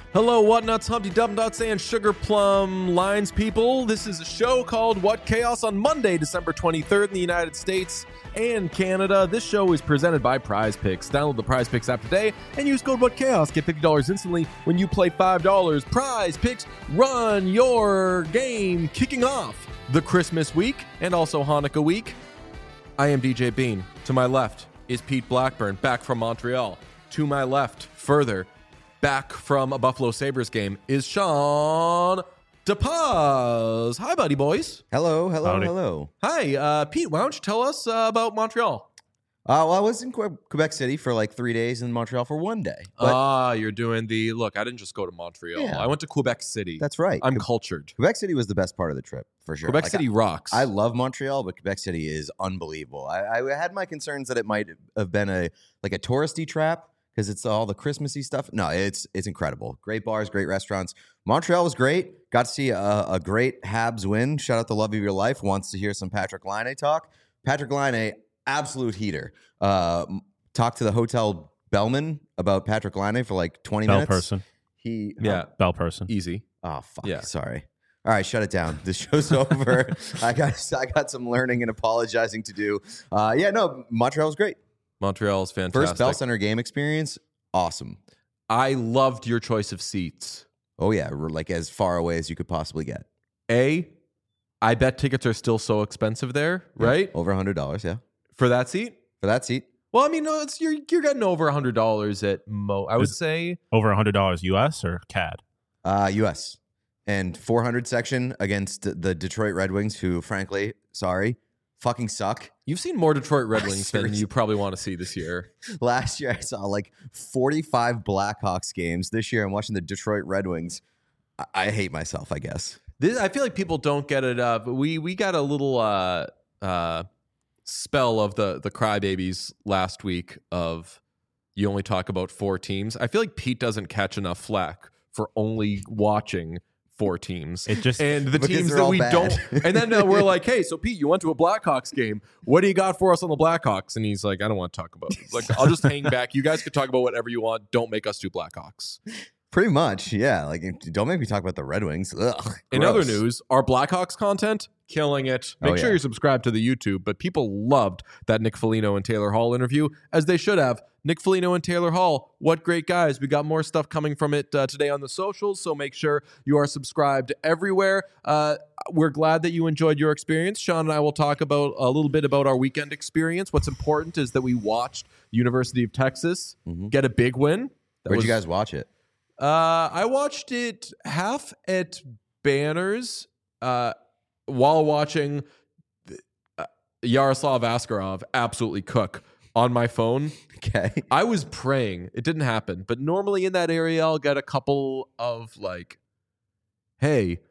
Hello, Whatnuts, Humpty Dumpnuts, and Sugar Plum Lines people. This is a show called What Chaos on Monday, December 23rd in the United States and Canada. This show is presented by Prize Picks. Download the Prize Picks app today and use code What Chaos. Get $50 instantly when you play $5. Prize Picks, run your game. Kicking off the Christmas week and also Hanukkah week. I am DJ Bean. To my left is Pete Blackburn, back from Montreal. To my left, further, back from a Buffalo Sabres game, is Sean DePaz. Hi, buddy boys. Hello. Howdy. Hi, Pete, why don't you tell us about Montreal? Well, I was in Quebec City for like 3 days and Montreal for 1 day. But You're doing the, look, I didn't just go to Montreal. Yeah. I went to Quebec City. that's right. I'm cultured. Quebec City was the best part of the trip, for sure. Quebec City rocks. I love Montreal, but Quebec City is unbelievable. I had my concerns that it might have been a touristy trap because it's all the Christmassy stuff. No, it's incredible. Great bars, great restaurants. Montreal was great. Got to see a great Habs win. Shout out the love of your life. Wants to hear some Patrick Laine talk. Patrick Laine, absolute heater. Talked to the hotel bellman about Patrick Laine for like 20 minutes. Person. Bell person. Easy. Oh, fuck. Yeah. Sorry. All right, shut it down. This show's over. I got some learning and apologizing to do. Montreal was great. Montreal's fantastic. First Bell Center game experience, awesome. I loved your choice of seats. Oh, yeah. We're like as far away as you could possibly get. I bet tickets are still so expensive there, right? Over $100, yeah. For that seat? For that seat. Well, I mean, no, you're getting over $100 at I would say Over $100 US or CAD? US. And 400 section against the Detroit Red Wings, who, frankly, sorry, fucking suck. you've seen more Detroit Red Wings than Seriously. you probably want to see this year. Last year, I saw like 45 Blackhawks games. This year, I'm watching the Detroit Red Wings. I hate myself, I guess. I feel like people don't get it up. We got a little spell of the crybabies last week of you only talk about 4 teams. I feel like Pete doesn't catch enough flack for only watching 4 teams. It just and the Because teams they're that all we bad. don't. And then we're like, hey, so Pete, you went to a Blackhawks game. What do you got for us on the Blackhawks? And he's like, I don't want to talk about it. Like, I'll just hang back. You guys could talk about whatever you want. Don't make us do Blackhawks. Pretty much, yeah. Like, don't make me talk about the Red Wings. Ugh, In other gross. news, our Blackhawks content, killing it. Make Oh, sure yeah. you're subscribed to the YouTube, but people loved that Nick Foligno and Taylor Hall interview, as they should have. Nick Foligno and Taylor Hall, what great guys. We got more stuff coming from it today on the socials, so make sure you are subscribed everywhere. We're glad that you enjoyed your experience. Sean and I will talk about a little bit about our weekend experience. What's important is that we watched University of Texas get a big win. Where'd you guys watch it? I watched it half at Banners while watching Yaroslav Askarov absolutely cook on my phone. Okay. I was praying. It didn't happen. But normally in that area, I'll get a couple of like, hey,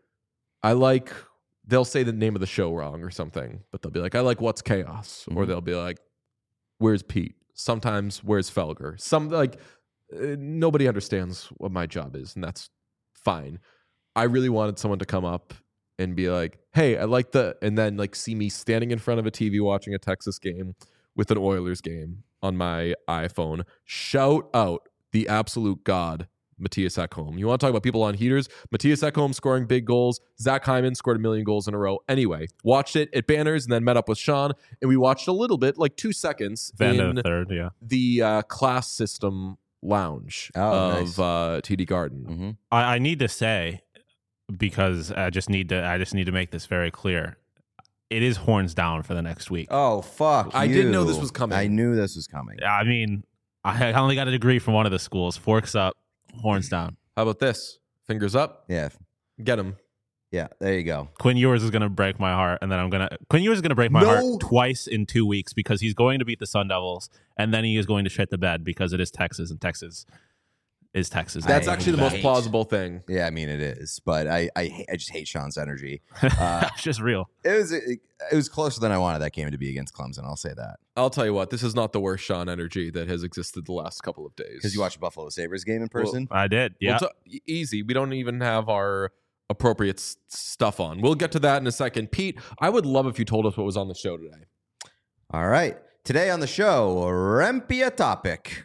they'll say the name of the show wrong or something, but they'll be like, I like What's Chaos. Or they'll be like, where's Pete? Sometimes, where's Felger? Nobody understands what my job is, and that's fine. I really wanted someone to come up and be like, hey, I like and then like see me standing in front of a TV watching a Texas game with an Oilers game on my iPhone. Shout out the absolute god, Matthias Ekholm. You want to talk about people on heaters? Matthias Ekholm scoring big goals. Zach Hyman scored 1 million goals in a row. Anyway, watched it at Banners and then met up with Sean, and we watched a little bit, like 2 seconds, Vanda in the third, yeah. the class system lounge of TD Garden. Mm-hmm. I need to say, because I just need to make this very clear. It is horns down for the next week. Oh, fuck. I didn't know this was coming. I knew this was coming. I mean, I only got a degree from one of the schools. Forks up, horns down. How about this? Fingers up. Yeah. Get him. Yeah. There you go. Quinn Ewers is going to break my heart, and then Quinn Ewers is going to break my heart twice in 2 weeks because he's going to beat the Sun Devils, and then he is going to shit the bed because it is Texas, and Texas is Texas. That's I actually the most plausible thing. Yeah, I mean, it is. But I just hate Sean's energy. It's just real. It was closer than I wanted that game to be against Clemson. I'll say that. I'll tell you what, this is not the worst Sean energy that has existed the last couple of days. Because you watched a Buffalo Sabres game in person? I did, yeah. Easy. We don't even have our appropriate stuff on. We'll get to that in a second. Pete, I would love if you told us what was on the show today. All right. Today on the show, Rempia topic.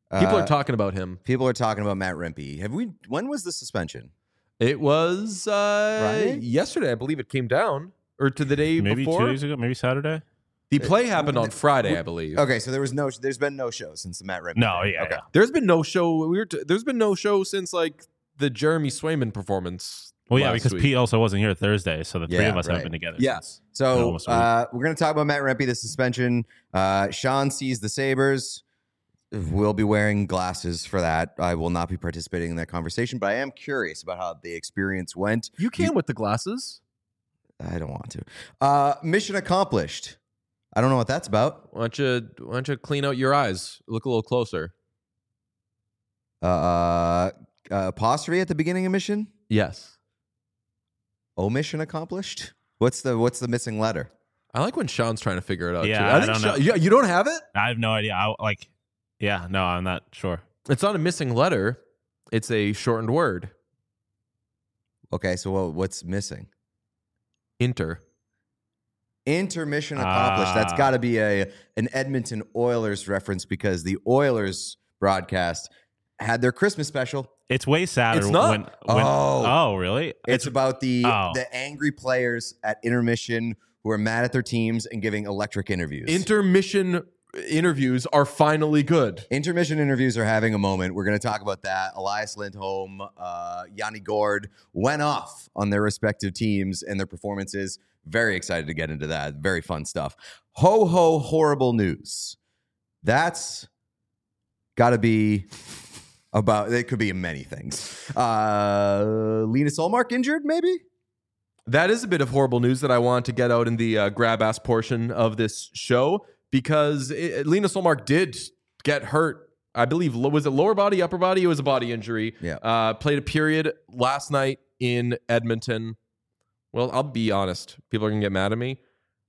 People are talking about him. People are talking about Matt Rempe. When was the suspension? It was yesterday, I believe. It came down, or to the day Maybe before. 2 days ago, maybe Saturday. The play happened on Friday, I believe. Okay, so there's been no show since the Matt Rempe. No, thing. yeah, Okay. yeah. There's been no show. There's been no show since like the Jeremy Swayman performance. Well, yeah, last because week. Pete also wasn't here Thursday, so the three Yeah, of us right. have been together. Yes. So almost a we're going to talk about Matt Rempe, the suspension. Sean sees the Sabres. We'll be wearing glasses for that. I will not be participating in that conversation, but I am curious about how the experience went. You came with the glasses. I don't want to. Mission accomplished. I don't know what that's about. Why don't you clean out your eyes? Look a little closer. Apostrophe at the beginning of mission. Yes. Omission accomplished. What's the missing letter? I like when Sean's trying to figure it out. Yeah, too. I don't know. Yeah, you don't have it? I have no idea. No, I'm not sure. It's not a missing letter. It's a shortened word. Okay, so what's missing? Inter. Intermission accomplished. That's got to be an Edmonton Oilers reference because the Oilers broadcast had their Christmas special. It's way sadder. It's not. When, Oh. Really? It's about the Oh. angry players at intermission who are mad at their teams and giving electric interviews. Intermission interviews are finally good. Intermission interviews are having a moment. We're going to talk about that. Elias Lindholm, Yanni Gord went off on their respective teams and their performances. Very excited to get into that. Very fun stuff. Ho, ho, horrible news. That's got to be about, it could be many things. Linus Ullmark injured, maybe? That is a bit of horrible news that I want to get out in the grab ass portion of this show because Linus Ullmark did get hurt. I believe, was it lower body, upper body? It was a body injury. Yeah. Played a period last night in Edmonton. Well, I'll be honest. People are going to get mad at me.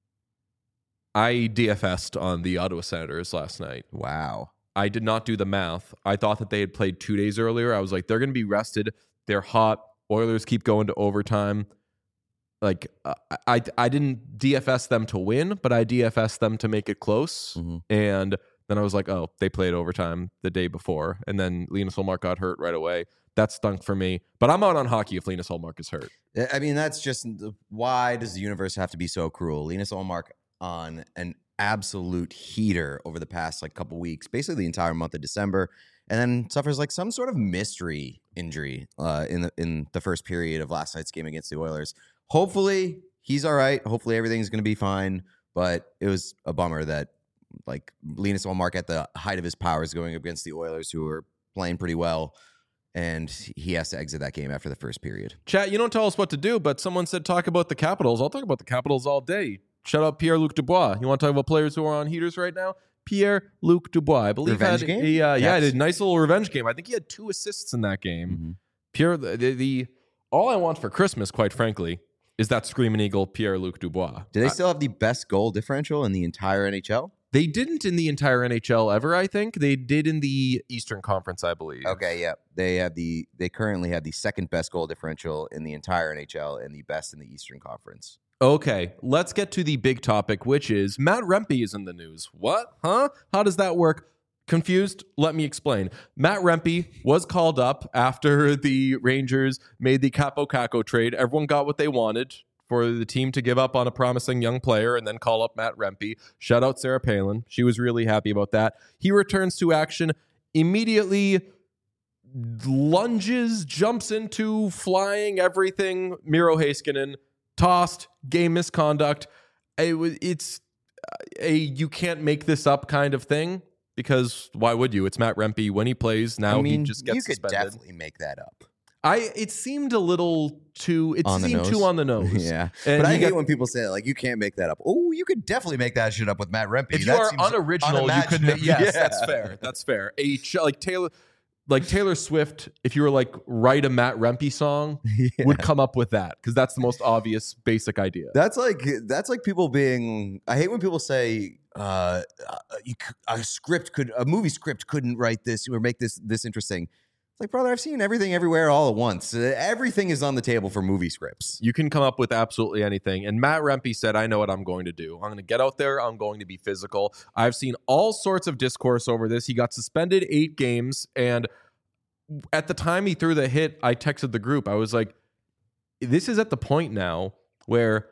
I DFS'd on the Ottawa Senators last night. Wow. I did not do the math. I thought that they had played 2 days earlier. I was like, they're going to be rested. They're hot. Oilers keep going to overtime. Like, I didn't DFS them to win, but I DFS them to make it close. Mm-hmm. And then I was like, oh, they played overtime the day before. And then Linus Ullmark got hurt right away. That stunk for me. But I'm out on hockey if Linus Ullmark is hurt. I mean, that's just, why does the universe have to be so cruel? Linus Ullmark on an absolute heater over the past couple weeks, basically the entire month of December, and then suffers some sort of mystery injury in the first period of last night's game against the Oilers. Hopefully he's all right. Hopefully everything's going to be fine. But it was a bummer that Linus Ullmark at the height of his powers going up against the Oilers, who are playing pretty well, and he has to exit that game after the first period. Chat, you don't tell us what to do, but someone said talk about the Capitals. I'll talk about the Capitals all day. Shout out Pierre-Luc Dubois. You want to talk about players who are on heaters right now? Pierre-Luc Dubois, I believe, Revenge had game? he did a nice little revenge game. I think he had 2 assists in that game. Mm-hmm. Pierre, the all I want for Christmas, quite frankly, is that Screaming Eagle Pierre-Luc Dubois. Do they still have the best goal differential in the entire NHL? They didn't in the entire NHL ever, I think. They did in the Eastern Conference, I believe. Okay, yeah. They currently have the second best goal differential in the entire NHL and the best in the Eastern Conference. Okay, let's get to the big topic, which is Matt Rempe is in the news. What? Huh? How does that work? Confused? Let me explain. Matt Rempe was called up after the Rangers made the Capo Caco trade. Everyone got what they wanted for the team to give up on a promising young player and then call up Matt Rempe. Shout out Sarah Palin. She was really happy about that. He returns to action, immediately lunges, jumps into flying everything. Miro Heiskanen, tossed, game misconduct. It's a you can't make this up kind of thing. Because why would you? It's Matt Rempe. When he plays now, he just gets suspended. You could definitely make that up. It seemed a little too. It seemed too on the nose. Yeah, and but I hate when people say that, you can't make that up. Oh, you could definitely make that shit up with Matt Rempe. If you are unoriginal, you could. Yes, that's fair. That's fair. Taylor Swift, if you were write a Matt Rempe song, would come up with that because that's the most obvious basic idea. That's like people being. I hate when people say a movie script couldn't write this or make this interesting. It's like, brother, I've seen everything everywhere all at once. Everything is on the table for movie scripts. You can come up with absolutely anything. And Matt Rempe said, I know what I'm going to do. I'm going to get out there. I'm going to be physical. I've seen all sorts of discourse over this. He got suspended 8 games. And at the time he threw the hit, I texted the group. I was like, this is at the point now where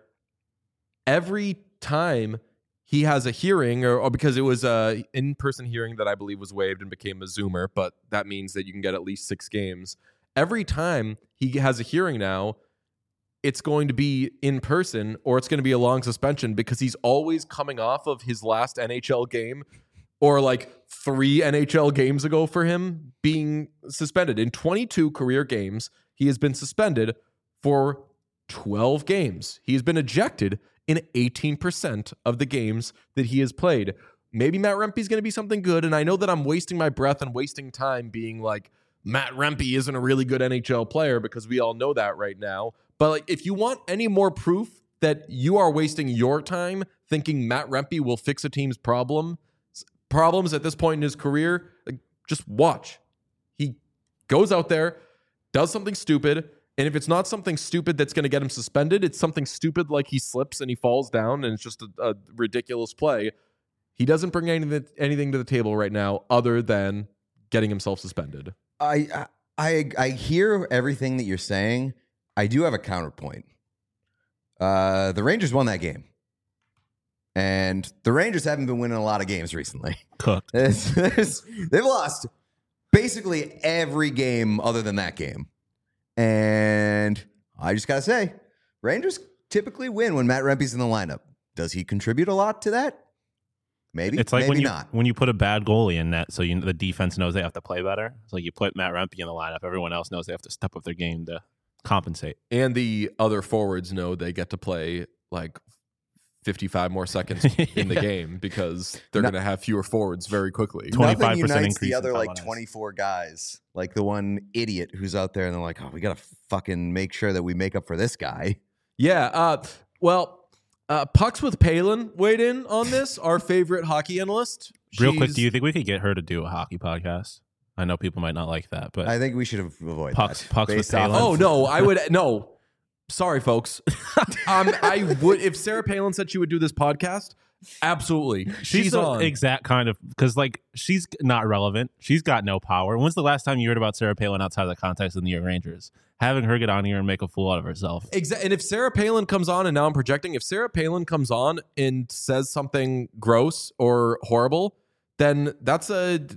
every time he has a hearing, or because it was a in-person hearing that I believe was waived and became a Zoomer, but that means that you can get at least 6 games. Every time he has a hearing now, it's going to be in person or it's going to be a long suspension because he's always coming off of his last NHL game or like 3 NHL games ago for him being suspended. In 22 career games, he has been suspended for 12 games. He has been ejected in 18% of the games that he has played. Maybe Matt Rempe's going to be something good, and I know that I'm wasting my breath and wasting time being like, Matt Rempe isn't a really good NHL player because we all know that right now. But like, if you want any more proof that you are wasting your time thinking Matt Rempe will fix a team's problems at this point in his career, like, just watch. He goes out there, does something stupid, and if it's not something stupid that's going to get him suspended, it's something stupid like he slips and he falls down and it's just a ridiculous play. He doesn't bring anything to the table right now other than getting himself suspended. I hear everything that you're saying. I do have a counterpoint. The Rangers won that game. And the Rangers haven't been winning a lot of games recently. Cooked. They've lost basically every game other than that game. And I just got to say, Rangers typically win when Matt Rempe's in the lineup. Does he contribute a lot to that? Maybe. It's like maybe when you put a bad goalie in net, so the defense knows they have to play better. So you put Matt Rempe in the lineup, everyone else knows they have to step up their game to compensate. And the other forwards know they get to play like 55 more seconds in the game because they're going to have fewer forwards very quickly. 25% Nothing unites increase the other in like Taiwan 24 guys, like the one idiot who's out there and they're like, oh, we got to fucking make sure that we make up for this guy. Yeah. Pucks with Palin weighed in on this, our favorite hockey analyst. Real quick, do you think we could get her to do a hockey podcast? I know people might not like that, but I think we should avoid Pucks that. with Based off Palin. Oh, no, I would. No. Sorry, folks. I would, if Sarah Palin said she would do this podcast, absolutely. She's the on. Exact kind of, because like she's not relevant. She's got no power. When's the last time you heard about Sarah Palin outside of the context of the New York Rangers? Having her get on here and make a fool out of herself. Exactly. And if Sarah Palin comes on, and now I'm projecting, if Sarah Palin comes on and says something gross or horrible, then that's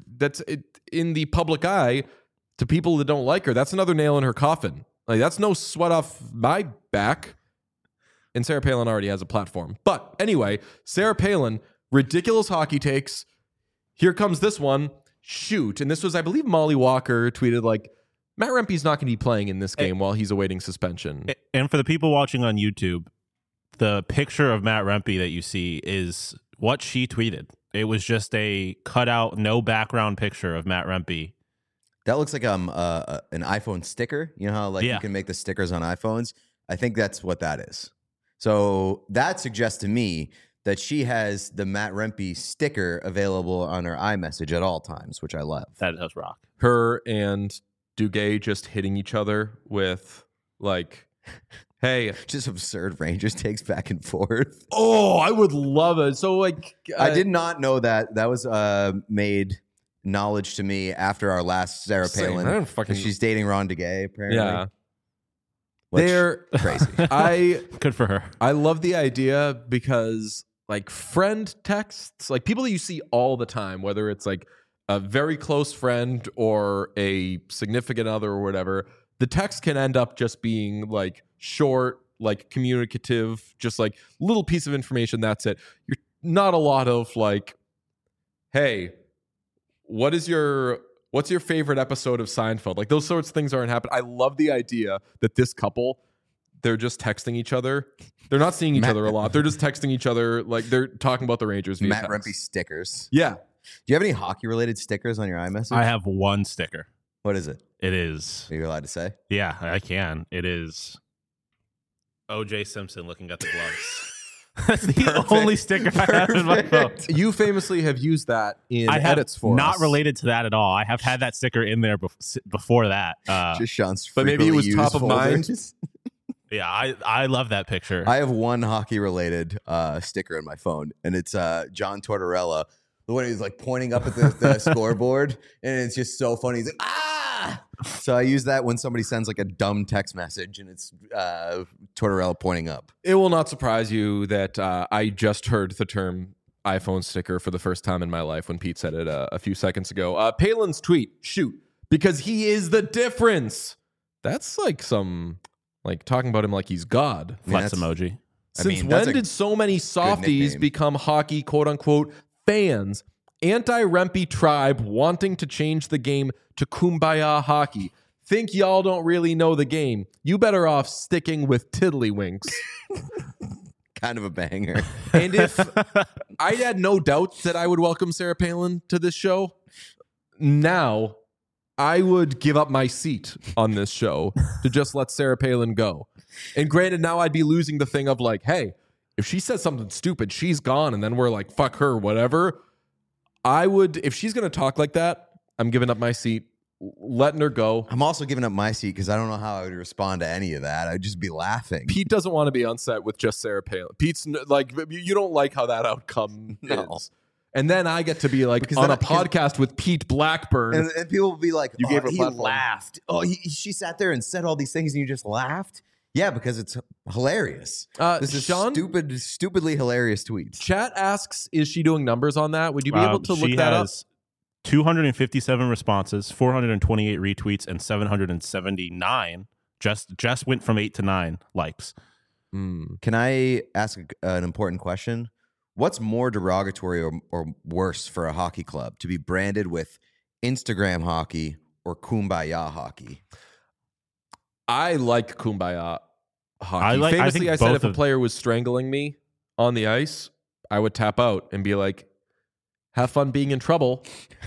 in the public eye to people that don't like her. That's another nail in her coffin. Like, that's no sweat off my back. And Sarah Palin already has a platform. But anyway, Sarah Palin, ridiculous hockey takes. Here comes this one. Shoot. And this was, I believe, Molly Walker tweeted like, Matt Rempe's not going to be playing in this game while he's awaiting suspension. And for the people watching on YouTube, the picture of Matt Rempe that you see is what she tweeted. It was just a cutout, no background picture of Matt Rempe. That looks like an iPhone sticker. You know how you can make the stickers on iPhones? I think that's what that is. So that suggests to me that she has the Matt Rempe sticker available on her iMessage at all times, which I love. That does rock. Her and Duguay just hitting each other with like, hey. Just absurd Rangers takes back and forth. Oh, I would love it. So like. I did not know that. That was made knowledge to me after our last Sarah Palin. She's dating Ron Duguay, apparently. Yeah. They're crazy. Good for her. I love the idea because like friend texts, like people that you see all the time, whether it's like a very close friend or a significant other or whatever, the text can end up just being like short, like communicative, just like little piece of information. That's it. You're not a lot of like, hey, what's your favorite episode of Seinfeld? Like those sorts of things aren't happening. I love the idea that this couple, they're just texting each other. They're not seeing each other a lot. They're just texting each other. Like they're talking about the Rangers. Via Matt text. Rempe stickers. Yeah. Do you have any hockey related stickers on your iMessage? I have one sticker. What is it? It is. Are you allowed to say? Yeah, I can. It is O.J. Simpson looking at the gloves. That's the only sticker I have in my phone. You famously have used that in I have edits for not us. related to that at all. I have had that sticker in there before that. Just Sean's but maybe it was frequently top used of mind. folders. Yeah, I love that picture. I have one hockey related sticker in my phone, and it's John Tortorella. The one he's like pointing up at the scoreboard, and it's just so funny. He's like, ah! So I use that when somebody sends like a dumb text message, and it's Tortorella pointing up. It will not surprise you that I just heard the term iPhone sticker for the first time in my life when Pete said it a few seconds ago. Palin's tweet, shoot, because he is the difference. That's like some, like talking about him like he's God. Flex emoji. Since when did so many softies become hockey, quote unquote, fans? Anti-Rempe tribe wanting to change the game to Kumbaya hockey. Think y'all don't really know the game. You better off sticking with Tiddlywinks. Kind of a banger. And if I had no doubt that I would welcome Sarah Palin to this show, now I would give up my seat on this show to just let Sarah Palin go. And granted, now I'd be losing the thing of like, hey, if she says something stupid, she's gone, and then we're like, fuck her, whatever. I would, if she's going to talk like that, I'm giving up my seat, letting her go. I'm also giving up my seat because I don't know how I would respond to any of that. I'd just be laughing. Pete doesn't want to be on set with just Sarah Palin. Pete's like, you don't like how that outcome is. And then I get to be like because on a podcast with Pete Blackburn. And people will be like, you gave her he platform. laughed. Oh, she sat there and said all these things and you just laughed? Yeah, because it's hilarious. This is Sean? stupidly hilarious tweets. Chat asks, is she doing numbers on that? Would you be able to look that up? 257 responses, 428 retweets, and 779. Just went from 8 to 9 likes. Can I ask an important question? What's more derogatory or worse for a hockey club? To be branded with Instagram hockey or Kumbaya hockey? I like Kumbaya hockey. Famously, I said if a player was strangling me on the ice, I would tap out and be like, have fun being in trouble.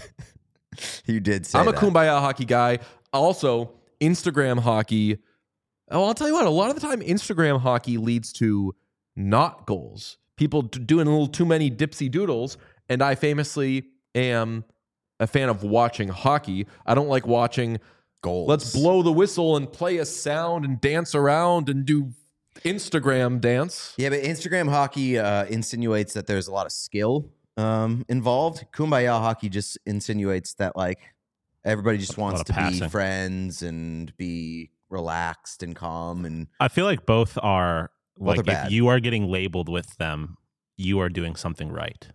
You did say I'm that. a Kumbaya hockey guy. Also, Instagram hockey. Oh, I'll tell you what, a lot of the time, Instagram hockey leads to not goals. People doing a little too many dipsy doodles. And I famously am a fan of watching hockey. I don't like watching goals. Let's blow the whistle and play a sound and dance around and do Instagram dance. Yeah, but Instagram hockey insinuates that there's a lot of skill involved. Kumbaya hockey just insinuates that like everybody just wants to be friends and be relaxed and calm. And I feel like both are like if bad. You are getting labeled with them, you are doing something right.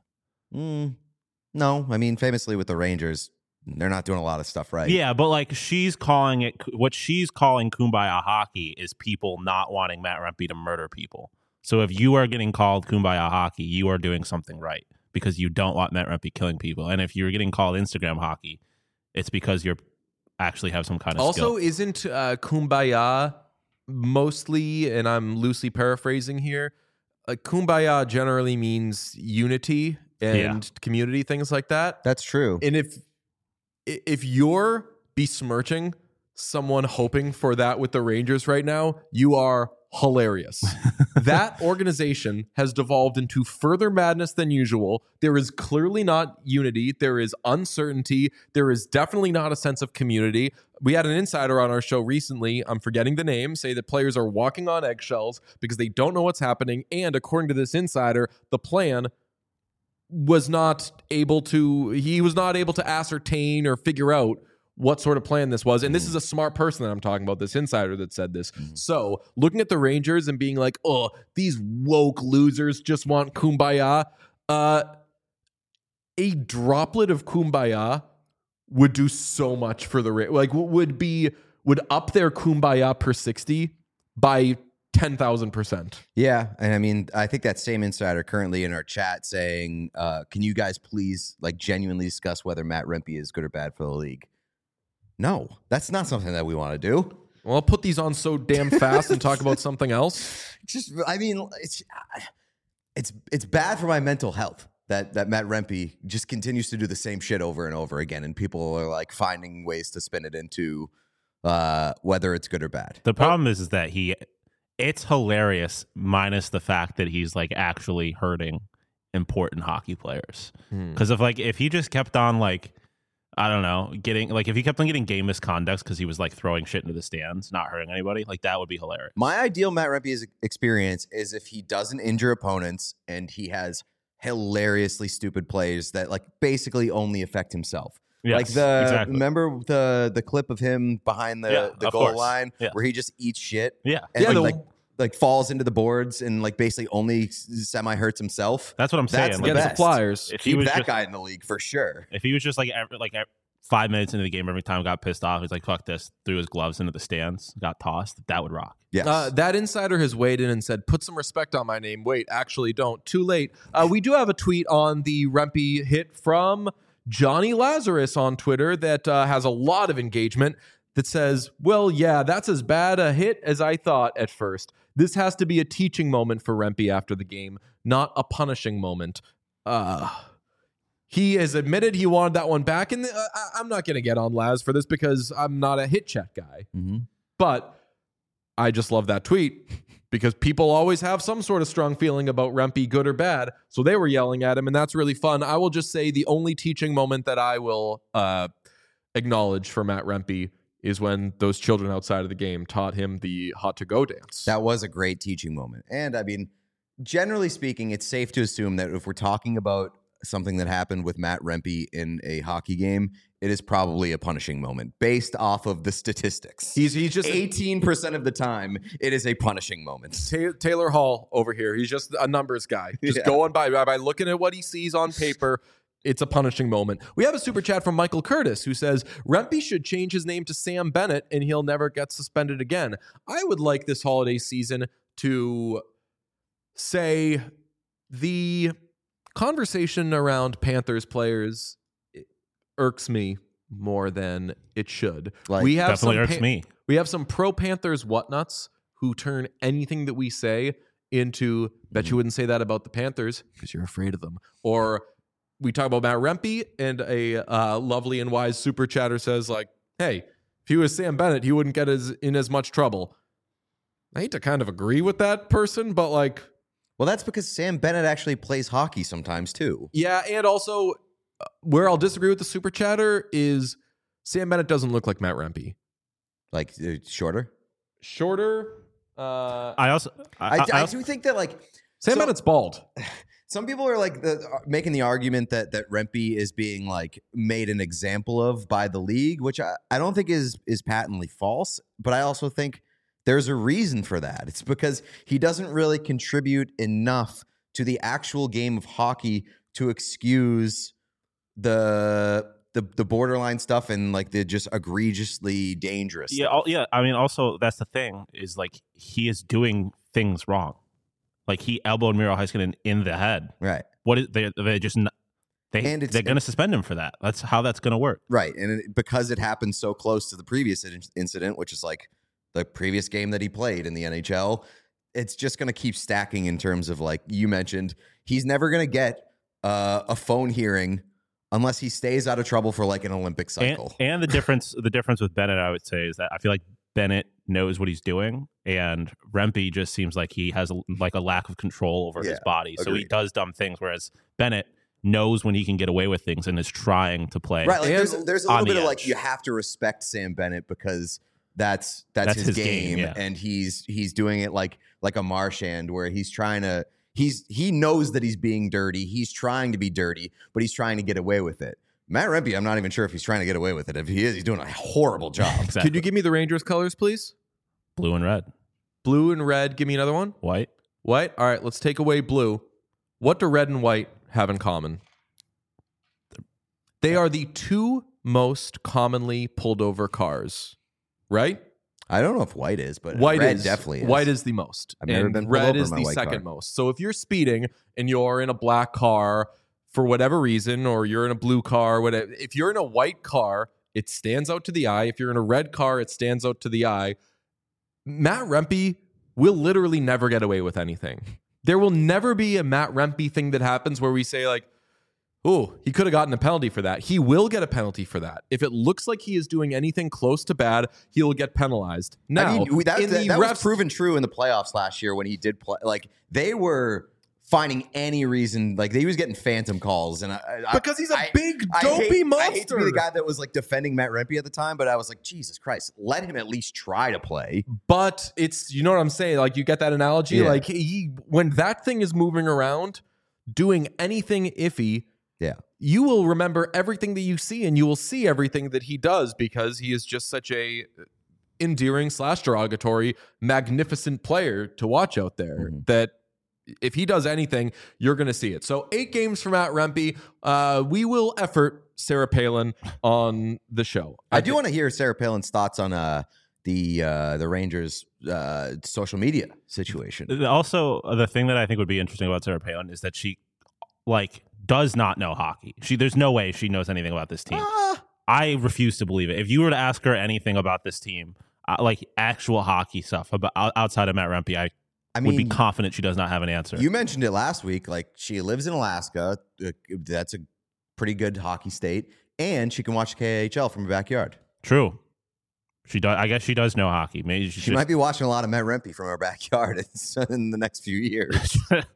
No, I mean famously with the Rangers, they're not doing a lot of stuff right. Yeah, but like she's calling it, what she's calling Kumbaya hockey is people not wanting Matt Rempe to murder people. So if you are getting called Kumbaya hockey, you are doing something right because you don't want Matt Rempe killing people. And if you're getting called Instagram hockey, it's because you're actually have some kind of skill. Also, isn't Kumbaya mostly, and I'm loosely paraphrasing here, Kumbaya generally means unity and community, things like that. That's true. And if you're besmirching someone hoping for that with the Rangers right now, you are hilarious. That organization has devolved into further madness than usual. There is clearly not unity. There is uncertainty. There is definitely not a sense of community. We had an insider on our show recently, I'm forgetting the name, say that players are walking on eggshells because they don't know what's happening. And according to this insider, the plan was not able to ascertain or figure out what sort of plan this was. And this is a smart person that I'm talking about, this insider that said this. So looking at the Rangers and being like, oh, these woke losers just want Kumbaya. A droplet of Kumbaya would do so much for the Rangers. Like would up their Kumbaya per 60 by 10,000%. Yeah. And I mean, I think that same insider currently in our chat saying, can you guys please like genuinely discuss whether Matt Rempe is good or bad for the league? No, that's not something that we want to do. Well, I'll put these on so damn fast and talk about something else. Just, I mean, it's bad for my mental health that Matt Rempe just continues to do the same shit over and over again, and people are like finding ways to spin it into whether it's good or bad. The problem is that he It's hilarious, minus the fact that he's like actually hurting important hockey players. Because if he just kept on like, I don't know, if he kept on getting game misconducts because he was like throwing shit into the stands, not hurting anybody, like that would be hilarious. My ideal Matt Rempe's experience is if he doesn't injure opponents and he has hilariously stupid plays that like basically only affect himself. Yes, like exactly. remember the clip of him behind the of goal course. line Yeah. where he just eats shit Yeah. and like falls into the boards and like basically only semi hurts himself. That's what I'm saying. That's Like, the Against best. the Flyers. if he Keep was that just, guy in the league for sure. if he was just like 5 minutes into the game, every time got pissed off, he's like, fuck this, threw his gloves into the stands, got tossed, that would rock. Yes. That insider has weighed in and said, put some respect on my name. Wait, actually don't. Too late. We do have a tweet on the Rempe hit from Johnny Lazarus on Twitter that has a lot of engagement that says, well, yeah, that's as bad a hit as I thought at first. This has to be a teaching moment for Rempe after the game, not a punishing moment. He has admitted he wanted that one back, and I'm not going to get on Laz for this because I'm not a hit check guy. Mm-hmm. But I just love that tweet because people always have some sort of strong feeling about Rempe, good or bad. So they were yelling at him, and that's really fun. I will just say the only teaching moment that I will acknowledge for Matt Rempe is when those children outside of the game taught him the hot to go dance. That was a great teaching moment. And I mean, generally speaking, it's safe to assume that if we're talking about something that happened with Matt Rempe in a hockey game, it is probably a punishing moment based off of the statistics. He's just 18% of the time, it is a punishing moment. Taylor Hall over here. He's just a numbers guy. Just Yeah. going by looking at what he sees on paper. It's a punishing moment. We have a super chat from Michael Curtis who says, Rempe should change his name to Sam Bennett and he'll never get suspended again. I would like this holiday season to say the conversation around Panthers players irks me more than it should. Like, we have Definitely some irks me. We have some pro Panthers whatnuts who turn anything that we say into, bet you wouldn't say that about the Panthers because you're afraid of them. Or we talk about Matt Rempe and a lovely and wise super chatter says like, hey, if he was Sam Bennett, he wouldn't get in as much trouble. I hate to kind of agree with that person, but like, well, that's because Sam Bennett actually plays hockey sometimes too. yeah, and also where I'll disagree with the super chatter is Sam Bennett doesn't look like Matt Rempe. Like shorter. Shorter. I do think that like Sam Bennett's bald. some people are like making the argument that Rempe is being like made an example of by the league, which I don't think is patently false. But I also think there's a reason for that. It's because he doesn't really contribute enough to the actual game of hockey to excuse the borderline stuff and like the just egregiously dangerous stuff. Yeah. I mean, also that's the thing is like he is doing things wrong. Like he elbowed Miro Heiskanen in the head. Right. What is they just they're going to suspend him for that. That's how that's going to work. Right. And because it happened so close to the previous incident, which is like the previous game that he played in the NHL, it's just going to keep stacking in terms of like you mentioned, he's never going to get a phone hearing unless he stays out of trouble for like an Olympic cycle. And the difference with Bennett, I would say, is that I feel like Bennett knows what he's doing, and Rempe just seems like he has a lack of control over his body. So he does dumb things, whereas Bennett knows when he can get away with things and is trying to play. Right. Like there's a little bit of like edge. you have to respect Sam Bennett because that's his game, yeah. and he's doing it like a Marchand where he's trying to he knows that he's being dirty. He's trying to be dirty, but he's trying to get away with it. Matt Rempe, I'm not even sure if he's trying to get away with it. If he is, he's doing a horrible job. Exactly. Could you give me the Rangers colors, please? Blue and red, Blue and red. Give me another one. white. White. All right, let's take away blue. What do red and white have in common? They are the two most commonly pulled over cars, right? I don't know if white is, but White red is definitely is. White is the most. I've never and been pulled red over in is my the white second car. most. So if you're speeding and you're in a black car for whatever reason, or you're in a blue car, whatever, if you're in a white car, it stands out to the eye. If you're in a red car, it stands out to the eye. Matt Rempe will literally never get away with anything. There will never be a Matt Rempe thing that happens where we say like, Ooh, he could have gotten a penalty for that. He will get a penalty for that. If it looks like he is doing anything close to bad, he will get penalized. Now, I mean, that refs, was proven true in the playoffs last year when he did play. Like, they were finding any reason. Like, he was getting phantom calls. And because he's a big, dopey monster. I hate to be the guy that was, like, defending Matt Rempe at the time, but I was like, Jesus Christ, let him at least try to play. But it's, you know what I'm saying? Like, you get that analogy? Yeah. Like, when that thing is moving around, doing anything iffy, Yeah. you will remember everything that you see, and you will see everything that he does because he is just such a endearing / derogatory, magnificent player to watch out there that if he does anything, you're going to see it. So 8 games for Matt Rempe. We will effort Sarah Palin on the show. I do want to hear Sarah Palin's thoughts on the Rangers' social media situation. Also, the thing that I think would be interesting about Sarah Palin is that she, like, does not know hockey. There's no way she knows anything about this team. I refuse to believe it. If you were to ask her anything about this team, like actual hockey stuff about outside of Matt Rempe, I would be confident she does not have an answer. You mentioned it last week. Like, she lives in Alaska. That's a pretty good hockey state, and she can watch KHL from her backyard. True. She does. I guess she does know hockey. Maybe she might be watching a lot of Matt Rempe from her backyard in the next few years.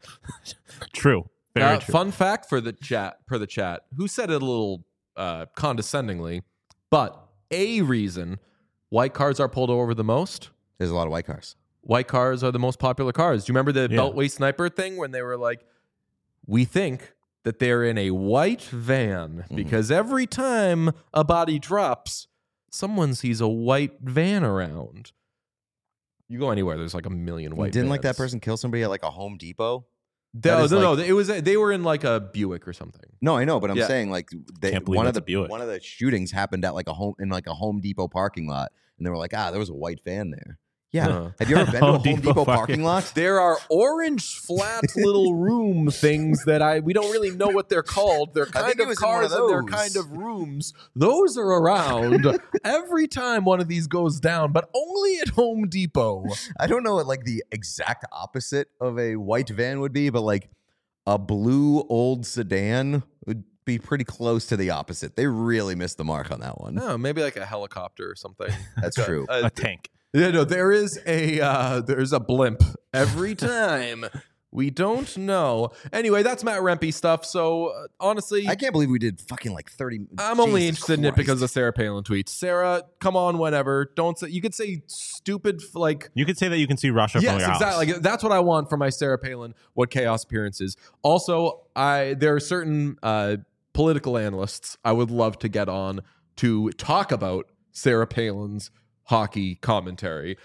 True. Very true. Fun fact for the chat, who said it a little condescendingly, but a reason white cars are pulled over the most. There's a lot of white cars. White cars are the most popular cars. Do you remember the Beltway Sniper thing when they were like, we think that they're in a white van because every time a body drops, someone sees a white van around. You go anywhere, there's like a million white Didn't vans. like that person kill somebody at like a Home Depot? No. It was they were in like a Buick or something. No, I know, but I'm saying like one of Buick. the shootings happened at like a Home Depot parking lot, and they were like, there was a white van there. Yeah. Have you ever been to a Home Depot parking lot? There are orange flat little room things that we don't really know what they're called. They're kind of cars and they're kind of rooms. Those are around every time one of these goes down, but only at Home Depot. I don't know what like the exact opposite of a white van would be, but like a blue old sedan would be pretty close to the opposite. They really missed the mark on that one. No, maybe like a helicopter or something. That's true. A tank. Yeah, no, there's a blimp every time. We don't know. Anyway, that's Matt Rempe stuff. So honestly, I can't believe we did fucking like 30. I'm only interested in it because of Sarah Palin tweets. Sarah, come on, whenever. Don't say. You could say stupid like. You could say that you can see Russia from your house. Yes, exactly. Like, that's what I want for my Sarah Palin What Chaos appearances. Also, there are certain political analysts I would love to get on to talk about Sarah Palin's hockey commentary.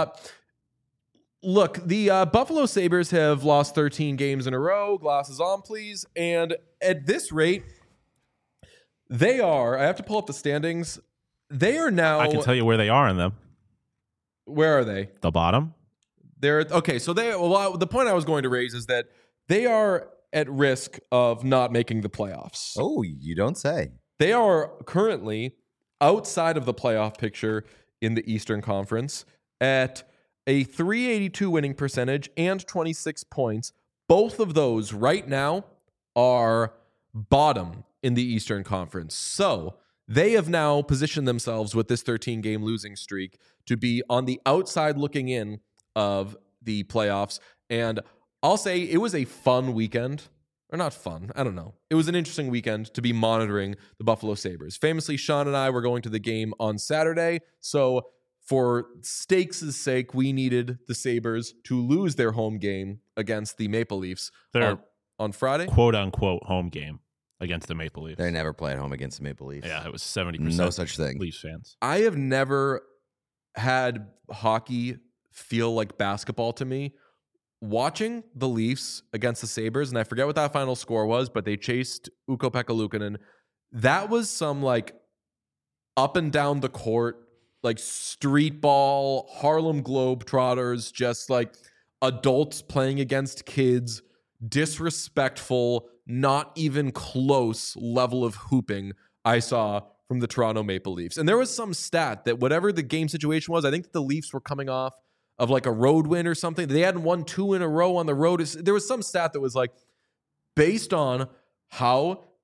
Look, the Buffalo Sabres have lost 13 games in a row. Glasses on, please. And at this rate, they are, I have to pull up the standings. They are now. I can tell you where they are in them. Where are they? The bottom. They're okay. So the point I was going to raise is that they are at risk of not making the playoffs. Oh, you don't say. They are currently outside of the playoff picture in the Eastern Conference at a .382 winning percentage and 26 points. Both of those right now are bottom in the Eastern Conference. So they have now positioned themselves with this 13-game losing streak to be on the outside looking in of the playoffs. And I'll say it was a fun weekend. Or not fun. I don't know. It was an interesting weekend to be monitoring the Buffalo Sabres. Famously, Sean and I were going to the game on Saturday. So for stakes' sake, we needed the Sabres to lose their home game against the Maple Leafs on Friday. Quote unquote home game against the Maple Leafs. They never play at home against the Maple Leafs. Yeah, it was 70%. No such thing. Leafs fans. I have never had hockey feel like basketball to me. Watching the Leafs against the Sabres, and I forget what that final score was, but they chased Ukko-Pekka Luukkonen. That was some like up and down the court, like street ball, Harlem Globetrotters, just like adults playing against kids, disrespectful, not even close level of hooping I saw from the Toronto Maple Leafs. And there was some stat that whatever the game situation was, I think that the Leafs were coming off of like a road win or something. They hadn't won 2 in a row on the road. There was some stat that was like, based on how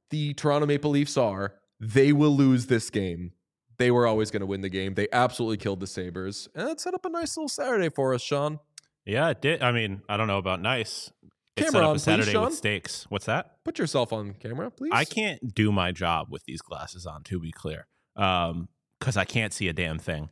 the Toronto Maple Leafs are, they will lose this game. They were always going to win the game. They absolutely killed the Sabres. And that set up a nice little Saturday for us, Sean. Yeah, it did. I mean, I don't know about nice. It Camera set up on, a Saturday please, Sean. with stakes. What's that? Put yourself on camera, please. I can't do my job with these glasses on, to be clear, because I can't see a damn thing.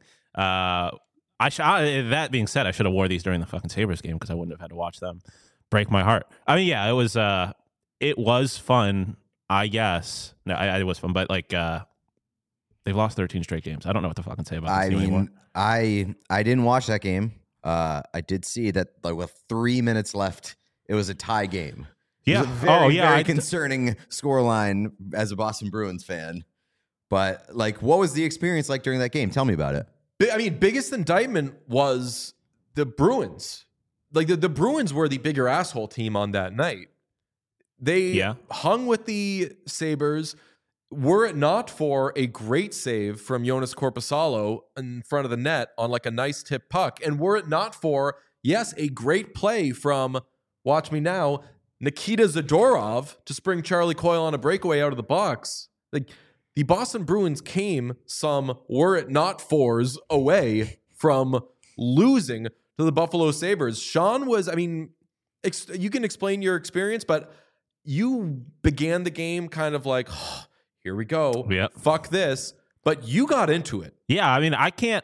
That being said, I should have wore these during the fucking Sabres game because I wouldn't have had to watch them break my heart. I mean, yeah, it was fun, I guess. No, it was fun, but like they've lost 13 straight games. I don't know what to fucking say about this anymore. I didn't watch that game. I did see that like with 3 minutes left, it was a tie game. Yeah. It was a very concerning scoreline as a Boston Bruins fan. But like, what was the experience like during that game? Tell me about it. I mean, biggest indictment was the Bruins. Like the Bruins were the bigger asshole team on that night. They hung with the Sabres. Were it not for a great save from Jonas Korpisalo in front of the net on like a nice tip puck, and were it not for, yes, a great play from, watch me now, Nikita Zadorov to spring Charlie Coyle on a breakaway out of the box. Like the Boston Bruins came some were it not fors away from losing to the Buffalo Sabres. Sean was, I mean, you can explain your experience, but you began the game kind of like, oh, here we go. Yep. Fuck this. But you got into it. Yeah, I mean, I can't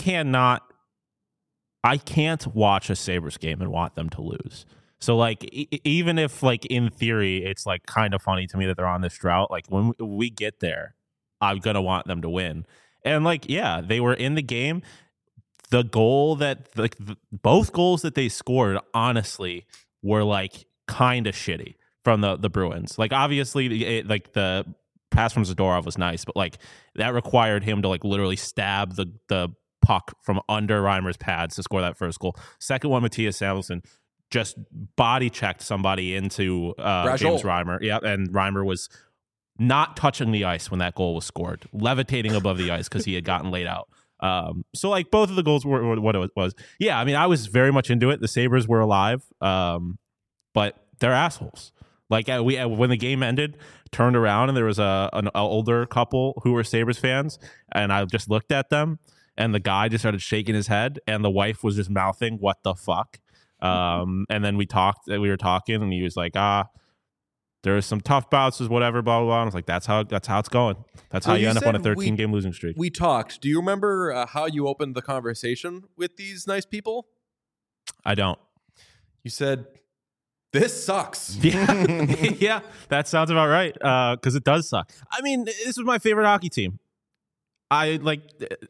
watch a Sabres game and want them to lose. So like, even if like in theory, it's like kind of funny to me that they're on this drought. Like when we get there, I'm going to want them to win. And like, yeah, they were in the game. The goal that like both goals that they scored, honestly, were like kind of shitty from the Bruins. Like obviously like the pass from Zadorov was nice, but like that required him to like literally stab the puck from under Reimer's pads to score that first goal. Second one, Matthias Samuelsson just body checked somebody into James Reimer. Yeah, and Reimer was not touching the ice when that goal was scored, levitating above the ice because he had gotten laid out. So like both of the goals were what it was. Yeah, I mean, I was very much into it. The Sabres were alive, but they're assholes. Like when the game ended, turned around and there was an older couple who were Sabres fans, and I just looked at them, and the guy just started shaking his head, and the wife was just mouthing, "What the fuck?" And then we were talking, and he was like, there's some tough bouts, whatever, blah, blah, blah. And I was like, that's how it's going. That's how you end up on a 13-game losing streak. We talked. Do you remember how you opened the conversation with these nice people? I don't. You said, this sucks. Yeah, yeah, that sounds about right, because it does suck. I mean, this was my favorite hockey team. They've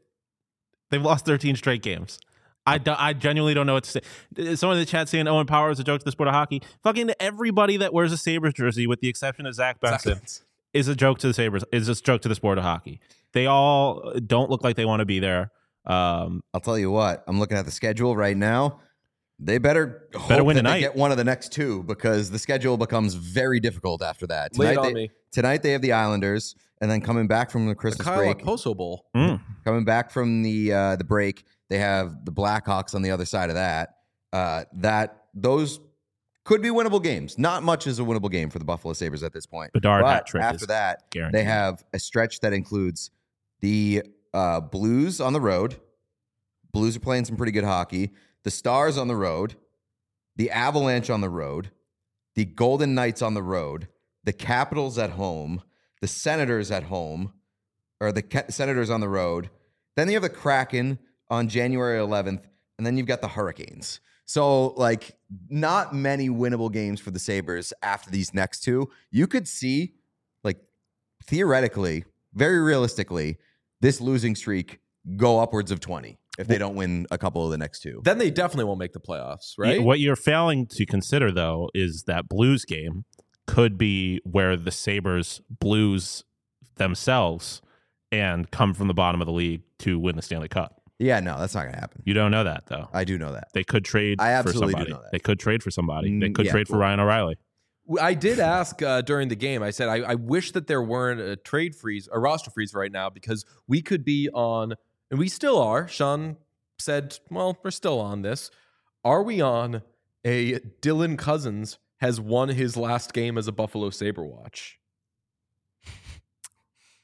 lost 13 straight games. I genuinely don't know what to say. Someone in the chat saying Owen Power is a joke to the sport of hockey. Fucking everybody that wears a Sabres jersey, with the exception of Zach Benson, is a joke to the Sabres. Is a joke to the sport of hockey. They all don't look like they want to be there. I'll tell you what. I'm looking at the schedule right now. They better win that tonight. They get one of the next two, because the schedule becomes very difficult after that. Tonight they have the Islanders, and then coming back from the Christmas break, Poso Bowl. Coming back from the break, they have the Blackhawks on the other side of that. Those could be winnable games. Not much is a winnable game for the Buffalo Sabres at this point. Bedard hat but trick after that, guaranteed. They have a stretch that includes the Blues on the road. Blues are playing some pretty good hockey. The Stars on the road. The Avalanche on the road. The Golden Knights on the road. The Capitals at home. The Senators at home. Or the Senators on the road. Then you have the Kraken on January 11th, and then you've got the Hurricanes. So, like, not many winnable games for the Sabres after these next two. You could see, like, theoretically, very realistically, this losing streak go upwards of 20 if they don't win a couple of the next two. Then they definitely won't make the playoffs, right? What you're failing to consider, though, is that Blues game could be where the Sabres Blues themselves and come from the bottom of the league to win the Stanley Cup. Yeah, no, that's not going to happen. You don't know that, though. I do know that. They could trade for somebody. I absolutely do know that. They could trade for somebody. They could trade for Ryan O'Reilly. I did ask during the game. I said, I wish that there weren't a trade freeze, a roster freeze right now, because we could be on, and we still are. Sean said, well, we're still on this. Are we on a Dylan Cousins has won his last game as a Buffalo Sabre watch?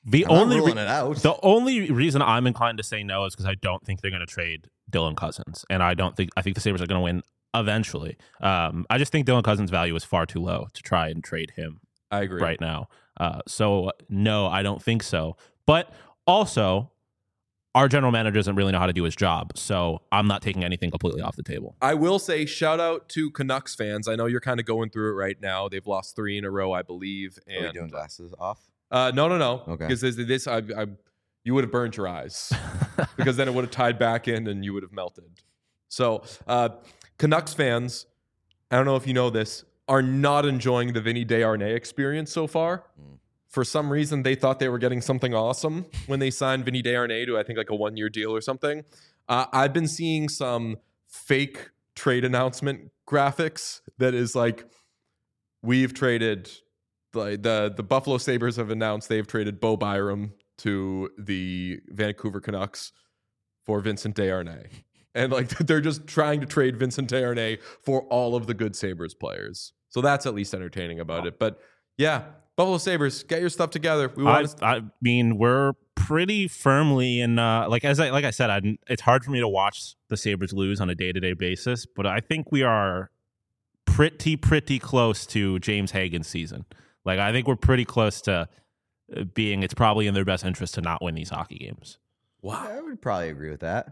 The I'm not only ruling it out. the only reason I'm inclined to say no is because I don't think they're going to trade Dylan Cousins, and I think the Sabres are going to win eventually. I just think Dylan Cousins' value is far too low to try and trade him I agree. right now. So no, I don't think so. But also, our general manager doesn't really know how to do his job, so I'm not taking anything completely off the table. I will say shout out to Canucks fans. I know you're kind of going through it right now. They've lost 3 in a row, I believe. Are we And doing glasses off? no. Okay. Because you would have burned your eyes because then it would have tied back in and you would have melted. So Canucks fans, I don't know if you know this, are not enjoying the Vinny Desharnais experience so far. For some reason, they thought they were getting something awesome when they signed Vinny Desharnais to, I think, like a 1-year deal or something. I've been seeing some fake trade announcement graphics that is like, we've traded, like the Buffalo Sabres have announced they've traded Bo Byram to the Vancouver Canucks for Vincent Desharnais. And like they're just trying to trade Vincent Desharnais for all of the good Sabres players. So that's at least entertaining about it. But yeah, Buffalo Sabres, get your stuff together. I mean, we're pretty firmly in. Like I said, it's hard for me to watch the Sabres lose on a day-to-day basis, but I think we are pretty close to James Hagen's season. Like I think we're pretty close to being. It's probably in their best interest to not win these hockey games. Wow. I would probably agree with that.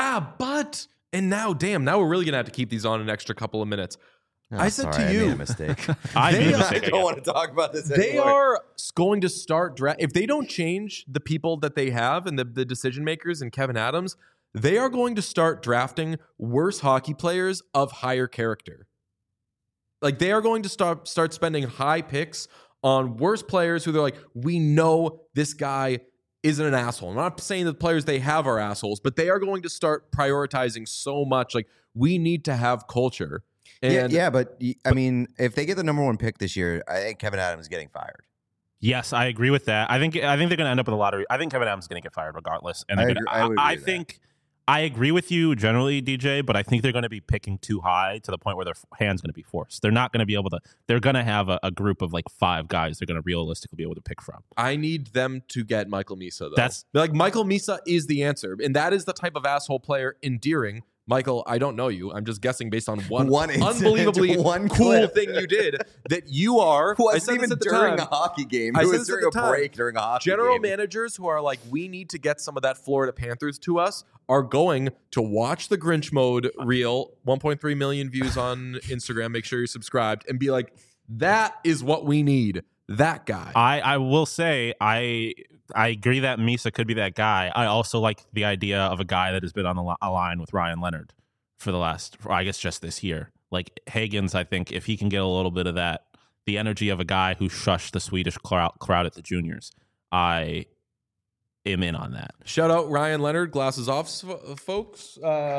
And now we're really gonna have to keep these on an extra couple of minutes. Oh, I said sorry, to you, I made a mistake. I made a I mistake don't again. want to talk about this they anymore. are going to start if they don't change the people that they have and the decision makers and Kevin Adams, they are going to start drafting worse hockey players of higher character. Like they are going to start spending high picks on worse players who they're like, we know this guy isn't an asshole. I'm not saying that the players they have are assholes, but they are going to start prioritizing so much. Like we need to have culture. And but I mean, if they get the number 1 pick this year, I think Kevin Adams is getting fired. Yes, I agree with that. I think they're going to end up with a lottery. I think Kevin Adams is going to get fired regardless. And I would agree with that. I agree with you generally, DJ, but I think they're going to be picking too high to the point where their hand's going to be forced. They're not going to be able to. They're going to have a group of like 5 guys they're going to realistically be able to pick from. I need them to get Michael Misa, though. That's like Michael Misa is the answer. And that is the type of asshole player endearing. Michael, I don't know you. I'm just guessing based on one unbelievably one cool clip. thing you did that you are. Who I wasn't said even this at the during time. a hockey game. I It said was this at during the a time. break during a hockey General game. managers who are like, we need to get some of that Florida Panthers to us are going to watch the Grinch Mode reel, 1.3 million views on Instagram. Make sure you're subscribed and be like, that is what we need. That guy. I will say I agree that Misa could be that guy. I also like the idea of a guy that has been on a line with Ryan Leonard for the last, I guess, just this year. Like Hagens, I think if he can get a little bit of that, the energy of a guy who shushed the Swedish crowd at the juniors, I am in on that. Shout out Ryan Leonard, glasses off, folks.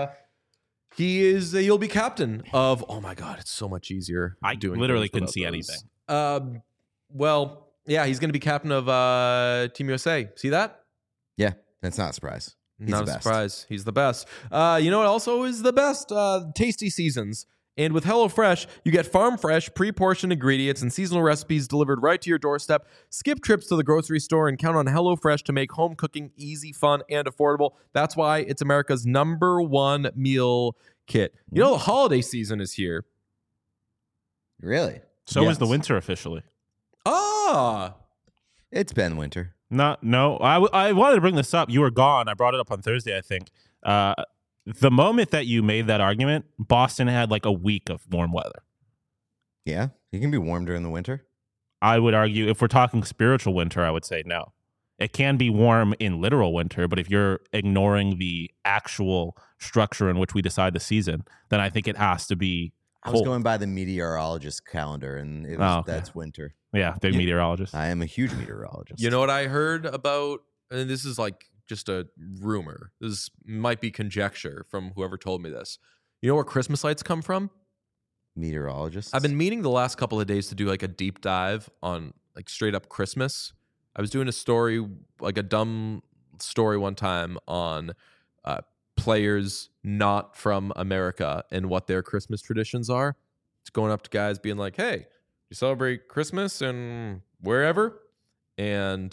He'll be captain of. Oh my God, it's so much easier. I doing literally things couldn't without see those. anything. Well, yeah, he's going to be captain of Team USA. See that? Yeah, that's not a surprise. He's Not the a best. surprise. He's the best. You know what also is the best? Tasty Seasons. And with HelloFresh, you get farm fresh, pre-portioned ingredients and seasonal recipes delivered right to your doorstep. Skip trips to the grocery store and count on HelloFresh to make home cooking easy, fun, and affordable. That's why it's America's #1 meal kit. You know, the holiday season is here. Really? So Yes. is the winter officially. Ah, It's been winter. No. I wanted to bring this up. You were gone. I brought it up on Thursday, I think. The moment that you made that argument, Boston had like a week of warm weather. Yeah, it can be warm during the winter. I would argue if we're talking spiritual winter, I would say no. It can be warm in literal winter, but if you're ignoring the actual structure in which we decide the season, then I think it has to be I was cold. going by the meteorologist calendar, and it was, Oh, okay. that's winter. Yeah, big meteorologist. I am a huge meteorologist. you know what I heard about, and this is like just a rumor. This might be conjecture from whoever told me this. You know where Christmas lights come from? meteorologist. I've been meaning the last couple of days to do like a deep dive on like straight up Christmas. I was doing a story, like a dumb story one time on players not from America and what their Christmas traditions are. It's going up to guys being like, hey, you celebrate Christmas and wherever? And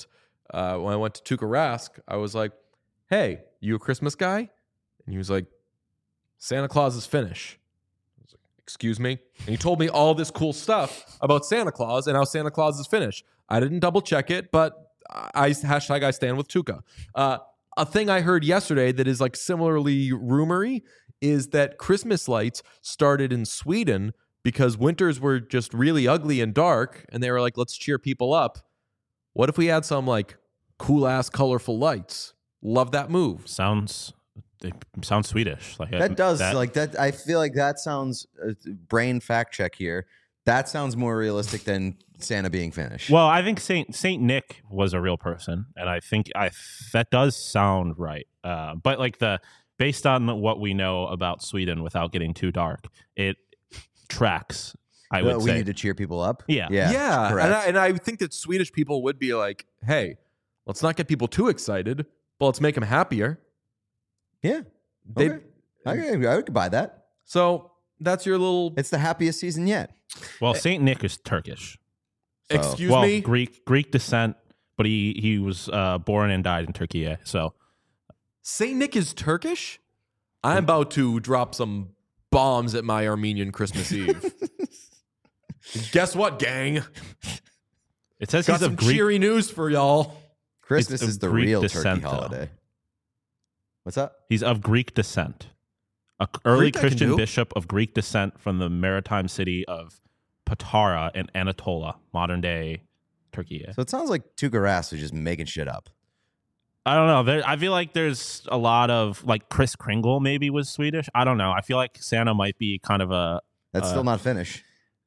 when I went to Tuukka Rask, I was like, hey, you a Christmas guy? And he was like, Santa Claus is Finnish. I was like, excuse me? And he told me all this cool stuff about Santa Claus and how Santa Claus is Finnish. I didn't double check it, but I stand with Tuukka. A thing I heard yesterday that is like similarly rumory is that Christmas lights started in Sweden because winters were just really ugly and dark, and they were like, let's cheer people up. What if we had some like cool ass colorful lights? Love that move. Sounds Swedish. Like That does like that. I feel like that sounds brain fact check here. That sounds more realistic than Santa being Finnish. Well, I think Saint Nick was a real person, and I think that does sound right. But like based on what we know about Sweden, without getting too dark, it tracks. I would say we need to cheer people up. Yeah. And I think that Swedish people would be like, hey, let's not get people too excited, but let's make them happier. Yeah. Okay. I could buy that. So that's your little. It's the happiest season yet. Well, Saint Nick is Turkish. Excuse me? Greek descent, but he was born and died in Turkey. So Saint Nick is Turkish? I'm about to drop some bombs at my Armenian Christmas Eve. Guess what, gang? It says Got he's some of Greek. cheery news for y'all. Christmas It's is the Greek real descent, turkey holiday. What's up? He's of Greek descent. An early Greek I can Christian do. bishop of Greek descent from the maritime city of Patara in Anatolia, modern day Turkey. So it sounds like Tuukka Rask was just making shit up. I don't know. I feel like there's a lot of like Kris Kringle maybe was Swedish. I don't know. I feel like Santa might be kind of a. That's still not Finnish.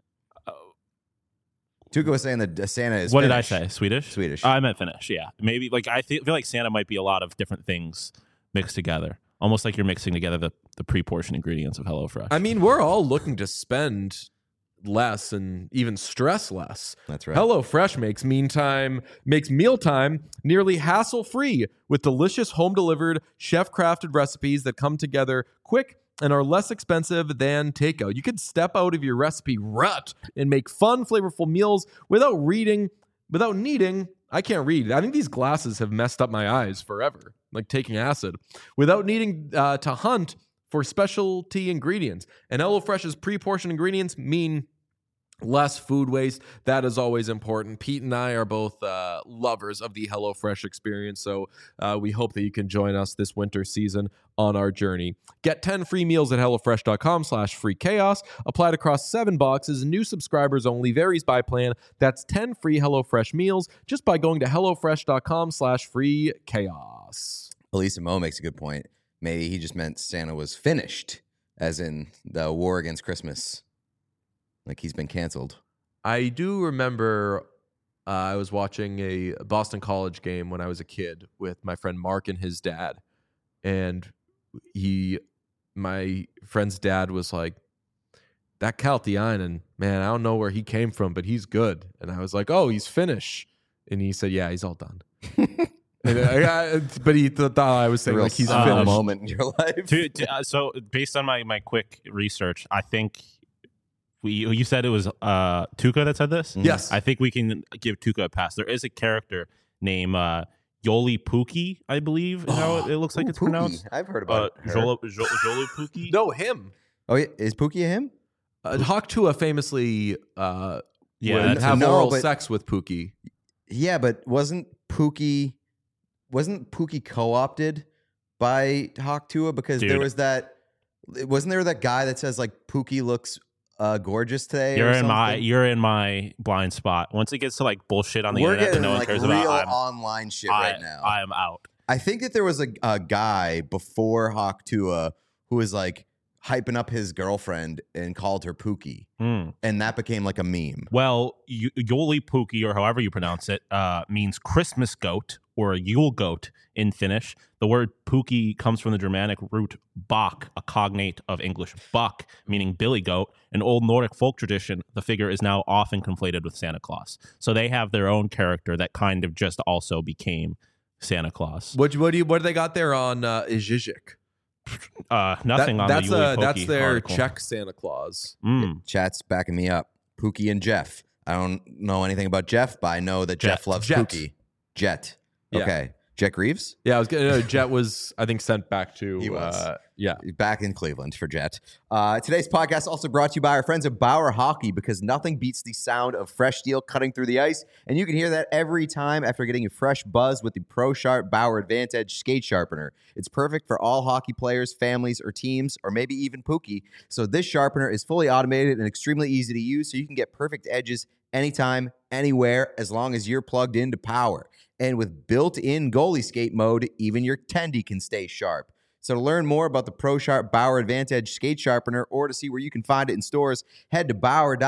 Tuukka was saying that Santa is What Finnish. did I say? Swedish? Swedish. I meant Finnish. Yeah, maybe like I feel like Santa might be a lot of different things mixed together, almost like you're mixing together the pre-portioned ingredients of HelloFresh. I mean, we're all looking to spend less and even stress less. That's right. HelloFresh makes mealtime nearly hassle-free with delicious home-delivered, chef-crafted recipes that come together quick and are less expensive than takeout. You could step out of your recipe rut and make fun, flavorful meals without needing. I can't read. I think these glasses have messed up my eyes forever, like taking acid, without needing to hunt for specialty ingredients. And HelloFresh's pre-portioned ingredients mean less food waste. That is always important. Pete and I are both lovers of the HelloFresh experience, so we hope that you can join us this winter season on our journey. Get 10 free meals at HelloFresh.com/freechaos. Applied across 7 boxes. New subscribers only. Varies by plan. That's 10 free HelloFresh meals just by going to HelloFresh.com/freechaos. Elisa Mo makes a good point. Maybe he just meant Santa was finished, as in the war against Christmas. Like he's been canceled. I do remember I was watching a Boston College game when I was a kid with my friend Mark and his dad. And my friend's dad was like, that Kaltiainen, man, I don't know where he came from, but he's good. And I was like, oh, he's Finnish. And he said, yeah, he's all done. But he thought I was saying like he's a Finnish. moment in your life. So based on my quick research, I think you said it was Tuukka that said this? Yes. I think we can give Tuukka a pass. There is a character named Yoli Pukki, I believe is how it looks like it's Pookie. pronounced. I've heard about her. Jolo Pukki? No, him. Oh, yeah. Is Pookie a him? Hawk Tua famously would that's have No, oral but- sex with Pookie. Yeah, but wasn't Pookie co-opted by Hawk Tua? Because Dude. there was that. Wasn't there that guy that says like Pookie looks gorgeous today? You're or in something? my blind spot. Once it gets to like bullshit on the We're internet that getting no one like cares real about, online shit right now. I am out. I think that there was a guy before Hawk Tua who was like hyping up his girlfriend and called her Pookie, and that became like a meme. Well, Yoli Pukki, or however you pronounce it, means Christmas goat or Yule goat in Finnish. The word Pukki comes from the Germanic root bak, a cognate of English buck, meaning billy goat. In Old Nordic folk tradition, the figure is now often conflated with Santa Claus. So they have their own character that kind of just also became Santa Claus. What do they got there on Izhizhik? Nothing on the Yuli Pukki that's their article. Czech Santa Claus. Chat's backing me up. Pookie and Jeff. I don't know anything about Jeff, but I know that Jeff loves Jet. Pookie. Jet. Yeah. Okay. Jack Reeves? Yeah, I was gonna. Jet was, I think, sent back to. He was. Yeah. Back in Cleveland for Jet. Today's podcast also brought to you by our friends at Bauer Hockey, because nothing beats the sound of fresh steel cutting through the ice. And you can hear that every time after getting a fresh buzz with the Pro Sharp Bauer Advantage Skate Sharpener. It's perfect for all hockey players, families, or teams, or maybe even Pookie. So this sharpener is fully automated and extremely easy to use, so you can get perfect edges anytime, anywhere, as long as you're plugged into power. And with built-in goalie skate mode, even your tendy can stay sharp. So to learn more about the Pro Sharp Bauer Advantage Skate Sharpener, or to see where you can find it in stores, head to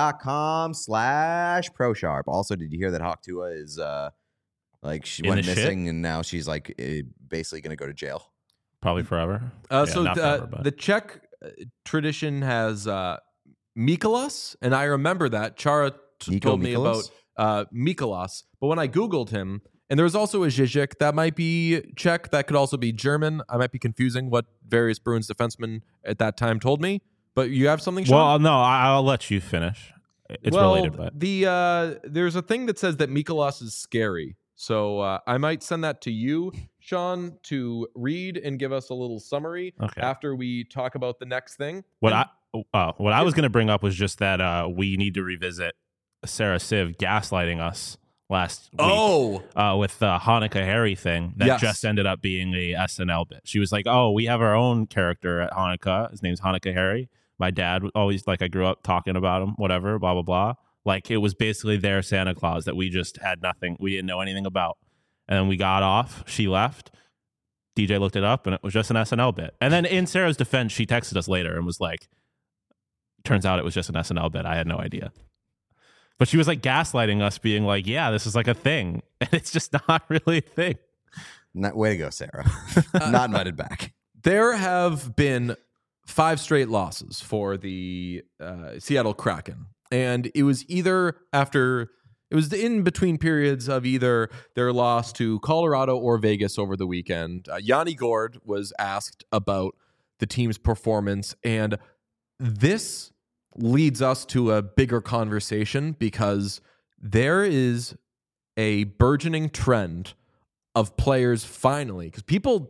Bauer.com/ProSharp. Also, did you hear that Hawk Tua is she In went the missing shit? and now she's basically going to go to jail? Probably forever. So not forever, but- the Czech tradition has Mikolas, and I remember that Chara Nico told me Mikolas? about Mikolas. But when I Googled him, and there was also a Žižek that might be Czech, that could also be German. I might be confusing what various Bruins defensemen at that time told me. But you have something, Sean? Well, no, I'll let you finish. It's related, but there's a thing that says that Mikolas is scary. So I might send that to you, Sean, to read and give us a little summary Okay. after we talk about the next thing. what I was going to bring up was just that we need to revisit Sarah Civ gaslighting us last week. With the Hanukkah Harry thing that Yes. just ended up being a SNL bit. She was like, "Oh, we have our own character at Hanukkah. His name's Hanukkah Harry. My dad always I grew up talking about him. Whatever, blah blah blah. Like it was basically their Santa Claus that we just had nothing. We didn't know anything about. And then we got off. She left. DJ looked it up, and it was just an SNL bit. And then in Sarah's defense, she texted us later and was like, "Turns out it was just an SNL bit. I had no idea." But she was gaslighting us, being like, "Yeah, this is a thing," and it's just not really a thing. Way to go, Sarah. Not invited back. There have been 5 straight losses for the Seattle Kraken. And it was in between periods of either their loss to Colorado or Vegas over the weekend. Yanni Gourde was asked about the team's performance, and this leads us to a bigger conversation, because there is a burgeoning trend of players finally, because people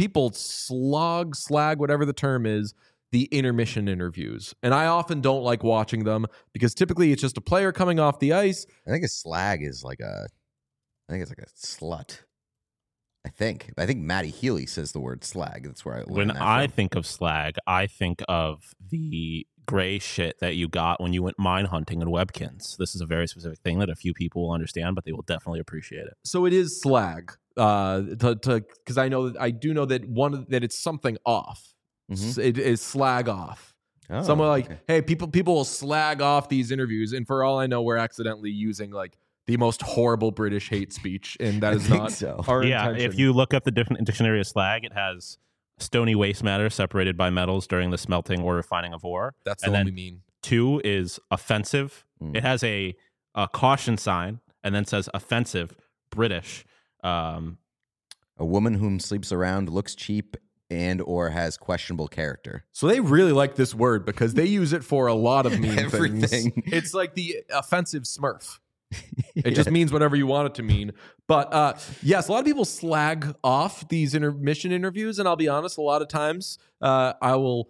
slag, whatever the term is, the intermission interviews. And I often don't like watching them, because typically it's just a player coming off the ice. I think a slag is I think it's like a slut. I think Matty Healy says the word slag. That's where I learned When that I from. think of slag, I think of the gray shit that you got when you went mine hunting in Webkins. This is a very specific thing that a few people will understand, but they will definitely appreciate it. So it is slag, because I do know that that it's something off. Mhm. It is slag off. Oh, Someone okay. hey, people will slag off these interviews, and for all I know, we're accidentally using the most horrible British hate speech, and that I is think not so. our Yeah, intention. if you look up the different dictionary of slag, it has stony waste matter separated by metals during the smelting or refining of ore. That's the and one then we mean. 2 is offensive. Mm. It has a caution sign and then says offensive, British. A woman whom sleeps around, looks cheap, and or has questionable character. So they really like this word, because they use it for a lot of mean things. Everything. It's like the offensive Smurf. It just means whatever you want it to mean. But yes, a lot of people slag off these intermission interviews, and I'll be honest, a lot of times I will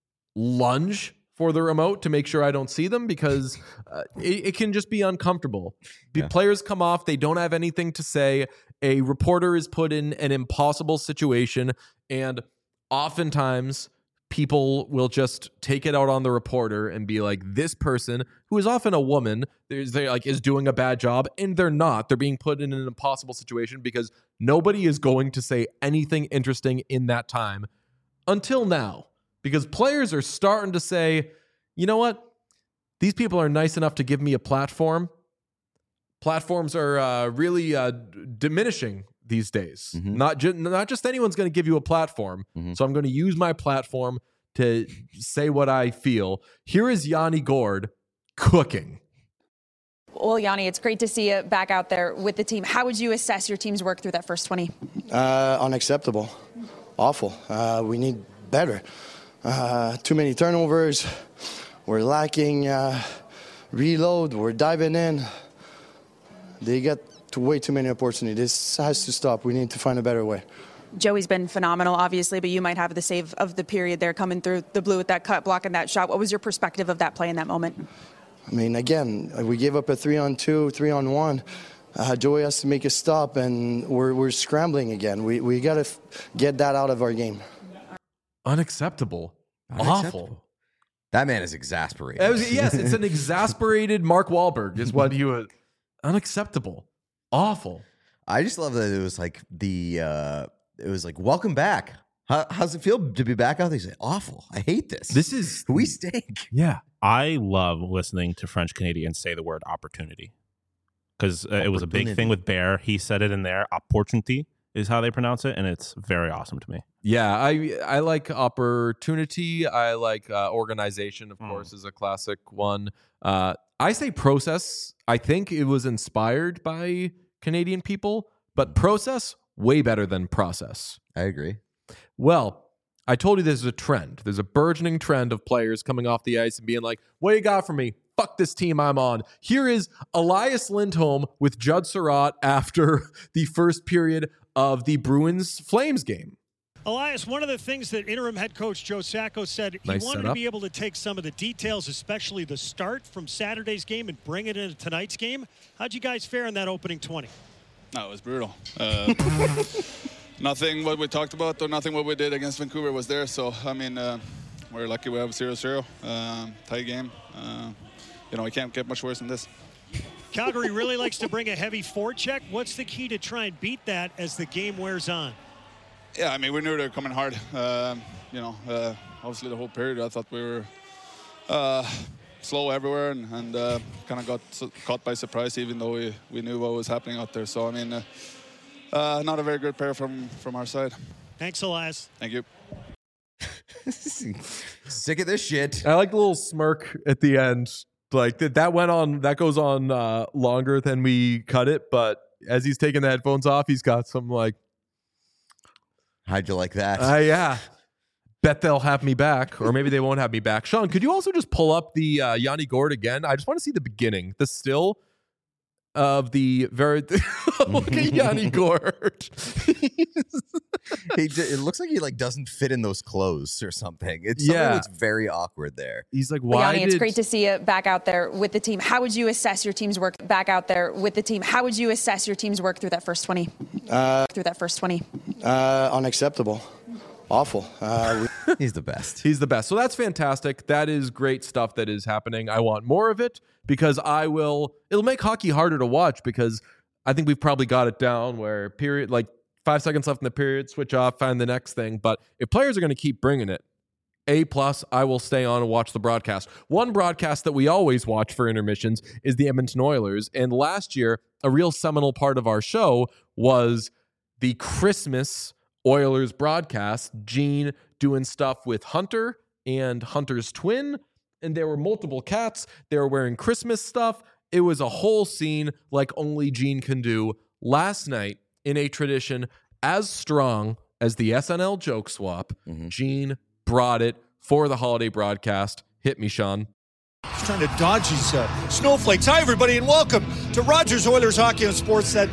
lunge for the remote to make sure I don't see them, because it can just be uncomfortable. The Yeah. players come off, they don't have anything to say. A reporter is put in an impossible situation, and oftentimes people will just take it out on the reporter and be like, this person, who is often a woman, is doing a bad job, and they're not. They're being put in an impossible situation because nobody is going to say anything interesting in that time until now. Because players are starting to say, you know what? These people are nice enough to give me a platform. Platforms are really diminishing these days. Mhm. Not just anyone's going to give you a platform. Mhm. So I'm going to use my platform to say what I feel. Here is Yanni Gourde cooking. Well, Yanni, it's great to see you back out there with the team. How would you assess your team's work through that first 20? Unacceptable. Awful. We need better. Too many turnovers. We're lacking reload. We're diving in. They get way too many opportunities. This has to stop. We need to find a better way. Joey's been phenomenal, obviously, but you might have the save of the period there coming through the blue with that cut, blocking that shot. What was your perspective of that play in that moment? I mean, again, we gave up a 3-on-2, 3-on-1. Joey has to make a stop, and we're scrambling again. We got to get that out of our game. Unacceptable. Awful. That man is exasperated. Yes, it's an exasperated Mark Wahlberg is what he was. Unacceptable. Awful. I just love that it was like it was like, welcome back. How's it feel to be back out there? He's like, awful. I hate this. This is we stink. Yeah. I love listening to French Canadians say the word opportunity because it was a big thing with Bear. He said it in there. Opportunity is how they pronounce it, and it's very awesome to me. Yeah, I like opportunity. I like organization, of course, is a classic one. I say process. I think it was inspired by Canadian people, but process, way better than process. I agree. Well, I told you there's a trend. There's a burgeoning trend of players coming off the ice and being like, what do you got for me? Fuck this team I'm on. Here is Elias Lindholm with Judd Surratt after the first period of the Bruins-Flames game. Elias, one of the things that interim head coach Joe Sacco said, he wanted to be able to take some of the details, especially the start from Saturday's game, and bring it into tonight's game. How'd you guys fare in that opening 20? No, it was brutal. Nothing what we talked about or nothing what we did against Vancouver was there. So, I mean, we're lucky we have 0-0, tie game. We can't get much worse than this. Calgary really likes to bring a heavy forecheck. What's the key to try and beat that as the game wears on? Yeah, I mean, we knew they were coming hard. Obviously the whole period I thought we were slow everywhere and kind of got caught by surprise even though we knew what was happening out there. So, I mean, not a very good pair from our side. Thanks, Elias. Thank you. Sick of this shit. I like the little smirk at the end. Like that goes on longer than we cut it, but as he's taking the headphones off, he's got some like, how'd you like that? Yeah. Bet they'll have me back, or maybe they won't have me back. Sean, could you also just pull up the Yanni Gourde again? I just want to see the beginning, the still of the very. Look at Yanni Gourde. It looks like he like doesn't fit in those clothes or something. It's something that's very awkward there. He's like, why? Yanni, it's great to see you back out there with the team. How would you assess your team's work back out there with the team? How would you assess your team's work through that first 20? Unacceptable. Awful. He's the best. He's the best. So that's fantastic. That is great stuff that is happening. I want more of it because it'll make hockey harder to watch because I think we've probably got it down where 5 seconds left in the period, switch off, find the next thing. But if players are going to keep bringing it, A+, I will stay on and watch the broadcast. One broadcast that we always watch for intermissions is the Edmonton Oilers. And last year, a real seminal part of our show was the Christmas Oilers broadcast. Gene doing stuff with Hunter and Hunter's twin. And there were multiple cats. They were wearing Christmas stuff. It was a whole scene like only Gene can do. Last night, in a tradition as strong as the SNL joke swap, Gene brought it for the holiday broadcast. Hit me, Sean. He's trying to dodge these snowflakes. Hi, everybody, and welcome to Rogers Oilers Hockey and Sports. Gotta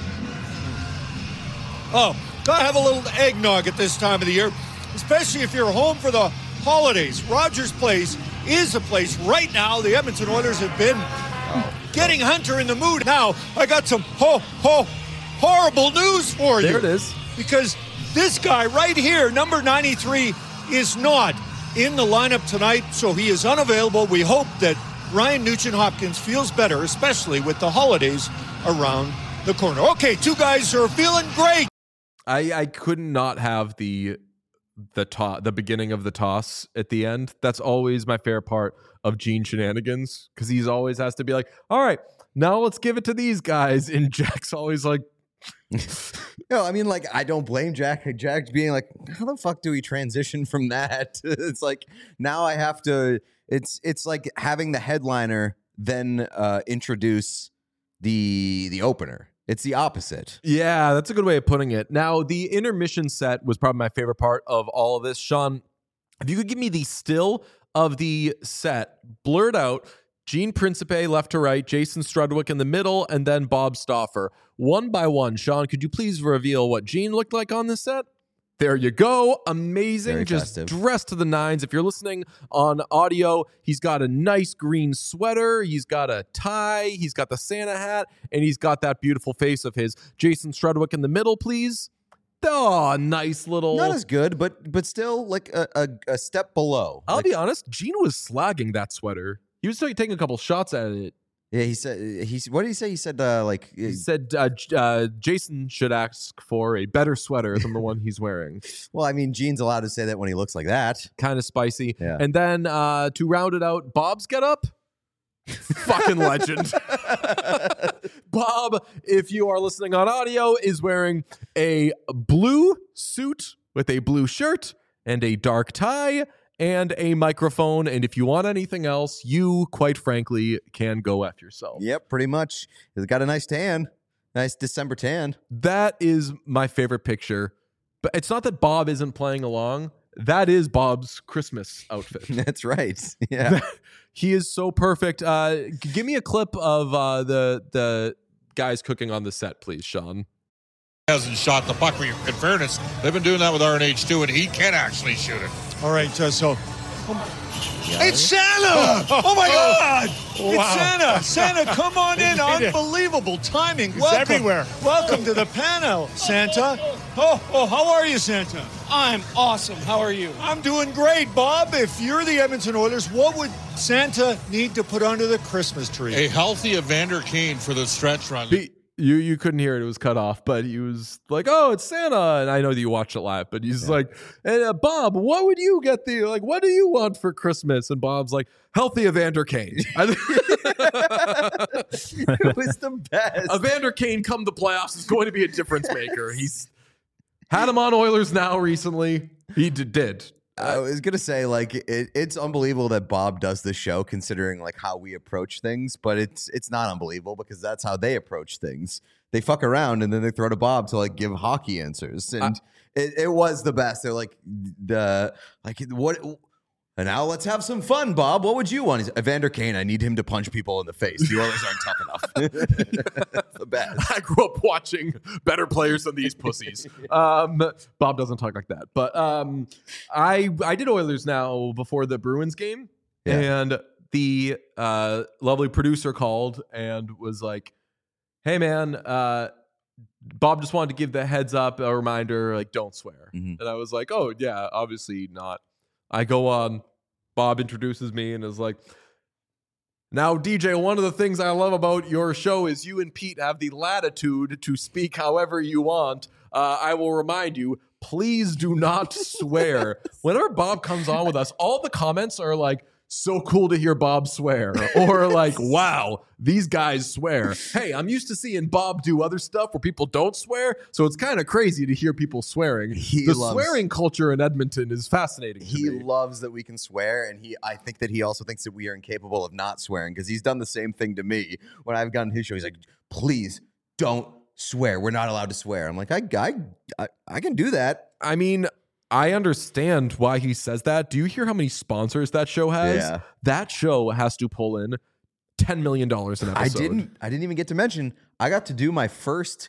have a little eggnog at this time of the year, especially if you're home for the holidays. Rogers Place is a place right now. The Edmonton Oilers have been getting Hunter in the mood. Now, I got some horrible news for you. There it is. Because this guy right here, number 93, is not in the lineup tonight, so he is unavailable. We hope that Ryan Nugent-Hopkins feels better, especially with the holidays around the corner. Okay, two guys who are feeling great. I could not have the beginning of the toss at the end. That's always my favorite part of Gene shenanigans because he's always has to be like, all right, now let's give it to these guys. And Jack's always like, no, I mean, like, I don't blame Jack. Jack's being like, how the fuck do we transition from that? It's like, now I have to, it's like having the headliner then introduce the opener. It's the opposite. Yeah, that's a good way of putting it. Now, the intermission set was probably my favorite part of all of this. Sean, if you could give me the still of the set, blurred out, Gene Principe left to right, Jason Strudwick in the middle, and then Bob Stauffer. One by one, Sean, could you please reveal what Gene looked like on this set? There you go. Amazing. Very Just festive. dressed to the nines. If you're listening on audio, he's got a nice green sweater. He's got a tie. He's got the Santa hat. And he's got that beautiful face of his. Jason Strudwick in the middle, please. Oh, nice little. Not as good, but still like a step below. I'll Like, be honest. Gene was slagging that sweater. He was taking a couple shots at it. yeah, he said what did he say? He said like He said Jason should ask for a better sweater than the one he's wearing. well, I mean, Gene's allowed to say that when he looks like that. Kind of spicy. Yeah. And then to round it out, Bob's get up. Fucking legend. Bob, if you are listening on audio, is wearing a blue suit with a blue shirt and a dark tie and a microphone. And if you want anything else, you, quite frankly, can go F yourself. Yep, pretty much. He's got a nice tan, nice December tan. That is my favorite picture. But it's not that Bob isn't playing along. That is Bob's Christmas outfit. That's right. Yeah. He is so perfect. Give me a clip of the guys cooking on the set, please, Sean. Hasn't shot the puck. In fairness, they've been doing that with RNH too, and he can actually shoot it. All right, so. It's Santa! Oh my God! It's Santa! Santa, come on in! Unbelievable timing! It's everywhere. Welcome to the panel, Santa. Oh, how are you, Santa? I'm awesome. How are you? I'm doing great, Bob. If you're the Edmonton Oilers, what would Santa need to put under the Christmas tree? A healthy Evander Kane for the stretch run. You couldn't hear it; it was cut off. But he was like, "Oh, it's Santa," and I know that you watched it live. But he's like, "Hey, Bob, what would you get what do you want for Christmas?" And Bob's like, "Healthy Evander Kane." It was the best. Evander Kane, come the playoffs, is going to be a difference maker. He's had him on Oilers now recently. He did. I was gonna say, like, it's unbelievable that Bob does this show, considering like how we approach things. But it's not unbelievable because that's how they approach things. They fuck around and then they throw to Bob to like give hockey answers, and it was the best. They're like what. And now let's have some fun, Bob. What would you want? He's Evander Kane. I need him to punch people in the face. The Oilers aren't tough enough. That's the best. I grew up watching better players than these pussies. Bob doesn't talk like that. But I did Oilers Now before the Bruins game. Yeah. And the lovely producer called and was like, hey, man, Bob just wanted to give the heads up, a reminder, like, don't swear. Mm-hmm. And I was like, oh, yeah, obviously not. I go on, Bob introduces me and is like, now, DJ, one of the things I love about your show is you and Pete have the latitude to speak however you want. I will remind you, please do not swear. Whenever Bob comes on with us, all the comments are like, so cool to hear Bob swear, or like, wow, these guys swear. Hey, I'm used to seeing Bob do other stuff where people don't swear, so it's kind of crazy to hear people swearing. The swearing culture in Edmonton is fascinating to He me. loves that we can swear, and I think that he also thinks that we are incapable of not swearing, because he's done the same thing to me when I've gotten his show. He's like, please don't swear. We're not allowed to swear. I'm like, I can do that. I mean, I understand why he says that. Do you hear how many sponsors that show has? Yeah. That show has to pull in $10 million an episode. I didn't even get to mention I got to do my first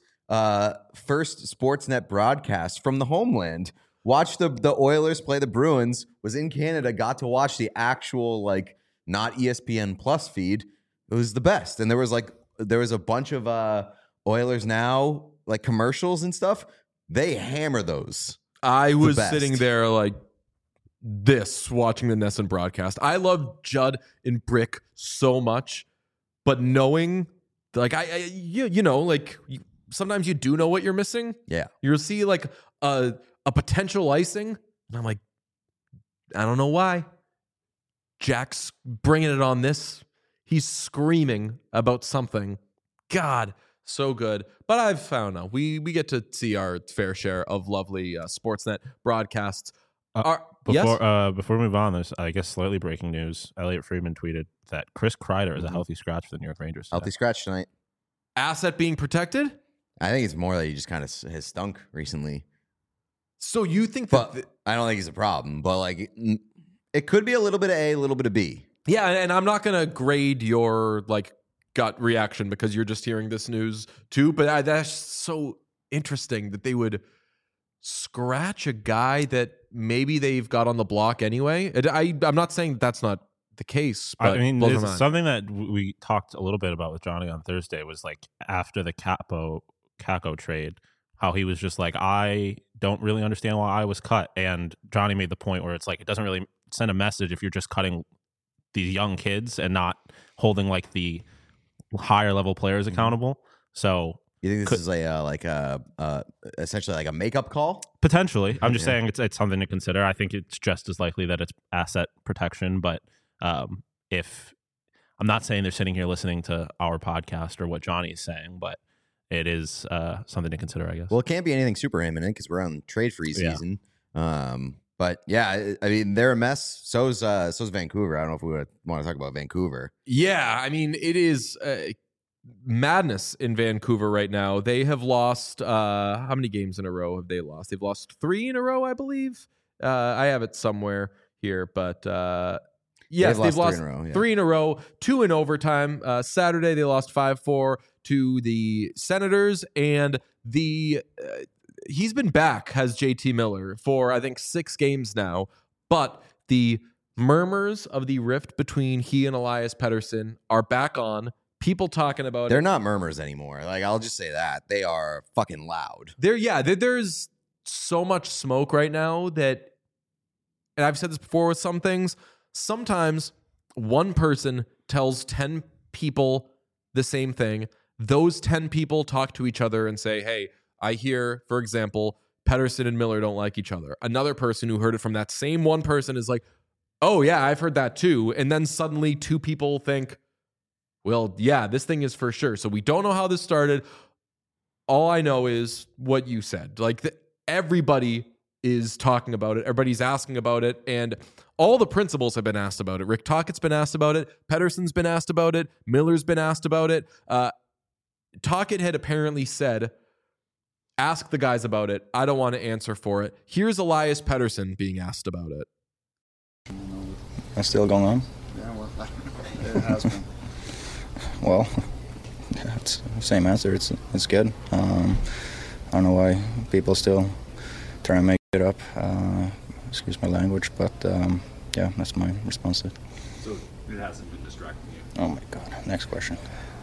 Sportsnet broadcast from the homeland. Watched the Oilers play the Bruins. Was in Canada. Got to watch the actual like not ESPN Plus feed. It was the best. And there was a bunch of Oilers Now like commercials and stuff. They hammer those. I was sitting there like this watching the Nesson broadcast. I love Judd and Brick so much, but knowing like you know, like sometimes you do know what you're missing. Yeah. You'll see like a potential icing, and I'm like, I don't know why. Jack's bringing it on this. He's screaming about something. God, so good. But I've found out we get to see our fair share of lovely Sportsnet broadcasts. Before we move on, there's, I guess, slightly breaking news. Elliot Friedman tweeted that Chris Kreider is a healthy scratch for the New York Rangers today. Healthy scratch tonight. Asset being protected? I think it's more that he just kind of has stunk recently. So you think that... But I don't think he's a problem. But like, it could be a little bit of A, a little bit of B. Yeah, and I'm not going to grade your like gut reaction because you're just hearing this news too, but that's so interesting that they would scratch a guy that maybe they've got on the block anyway. I'm not saying that's not the case, but I mean, there's something that we talked a little bit about with Johnny on Thursday was like after the Kakko trade, how he was just like, I don't really understand why I was cut. And Johnny made the point where it's like, it doesn't really send a message if you're just cutting these young kids and not holding like the higher level players accountable. So you think this is essentially like a makeup call? Potentially. I'm just saying it's something to consider. I think it's just as likely that it's asset protection, but if I'm not saying they're sitting here listening to our podcast or what Johnny's saying, but it is something to consider, I guess. Well, it can't be anything super imminent because we're on trade free season. But yeah, I mean, they're a mess. So's Vancouver. I don't know if we want to talk about Vancouver. Yeah, I mean, it is madness in Vancouver right now. They have lost, how many games in a row have they lost? They've lost 3 in a row, I believe. I have it somewhere here, but yes, they've lost 3 in a row, 2 in overtime. Saturday, they lost 5-4 to the Senators, and he's been back, has JT Miller, for I think 6 games now, but the murmurs of the rift between he and Elias Pettersson are back on. People talking about They're not murmurs anymore. Like, I'll just say that. They are fucking loud. There's so much smoke right now that, and I've said this before with some things, sometimes one person tells 10 people the same thing. Those 10 people talk to each other and say, hey, I hear, for example, Pettersson and Miller don't like each other. Another person who heard it from that same one person is like, oh yeah, I've heard that too. And then suddenly 2 people think, well, yeah, this thing is for sure. So we don't know how this started. All I know is what you said. Like everybody is talking about it. Everybody's asking about it. And all the principals have been asked about it. Rick Tocchet's been asked about it. Pettersson's been asked about it. Miller's been asked about it. Tocchet had apparently said, ask the guys about it. I don't want to answer for it. Here's Elias Pettersson being asked about it. That's still going on? Yeah, well, it has been. Well, it's the same answer. It's good. I don't know why people still try to make it up. Excuse my language, but yeah, that's my response to it. So it hasn't been distracting you? Oh my God. Next question.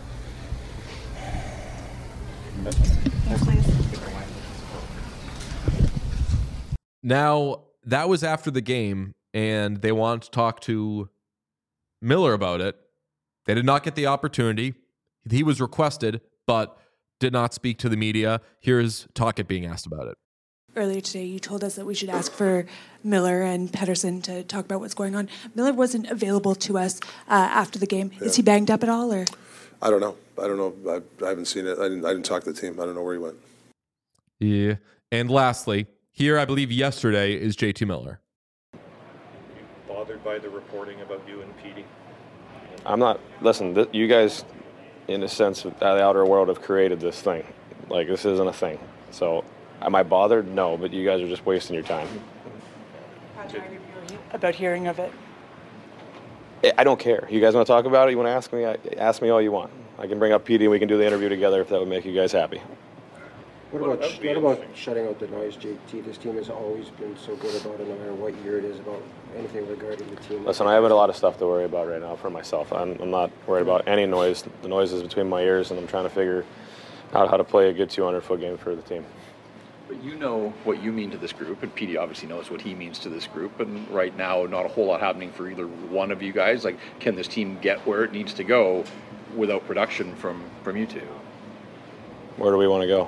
Now, that was after the game, and they wanted to talk to Miller about it. They did not get the opportunity. He was requested, but did not speak to the media. Here's Tocchet being asked about it. Earlier today, you told us that we should ask for Miller and Pettersson to talk about what's going on. Miller wasn't available to us after the game. Yeah. Is he banged up at all, or? I don't know. I haven't seen it. I didn't talk to the team. I don't know where he went. Yeah. And lastly, here, I believe yesterday, is JT Miller. Are you bothered by the reporting about you and Petey? I'm not. Listen, you guys, in a sense, the outer world have created this thing. Like, this isn't a thing. So, am I bothered? No, but you guys are just wasting your time. How tired are you about hearing of it? I don't care. You guys want to talk about it? You want to ask me? Ask me all you want. I can bring up Petey and we can do the interview together if that would make you guys happy. What about shutting out the noise, JT? This team has always been so good about it, no matter what year it is, about anything regarding the team. Listen, I have a lot of stuff to worry about right now for myself. I'm not worried about any noise. The noise is between my ears, and I'm trying to figure out how to play a good 200-foot game for the team. But you know what you mean to this group, and Petey obviously knows what he means to this group, and right now not a whole lot happening for either one of you guys. Like, can this team get where it needs to go without production from you two? Where do we want to go?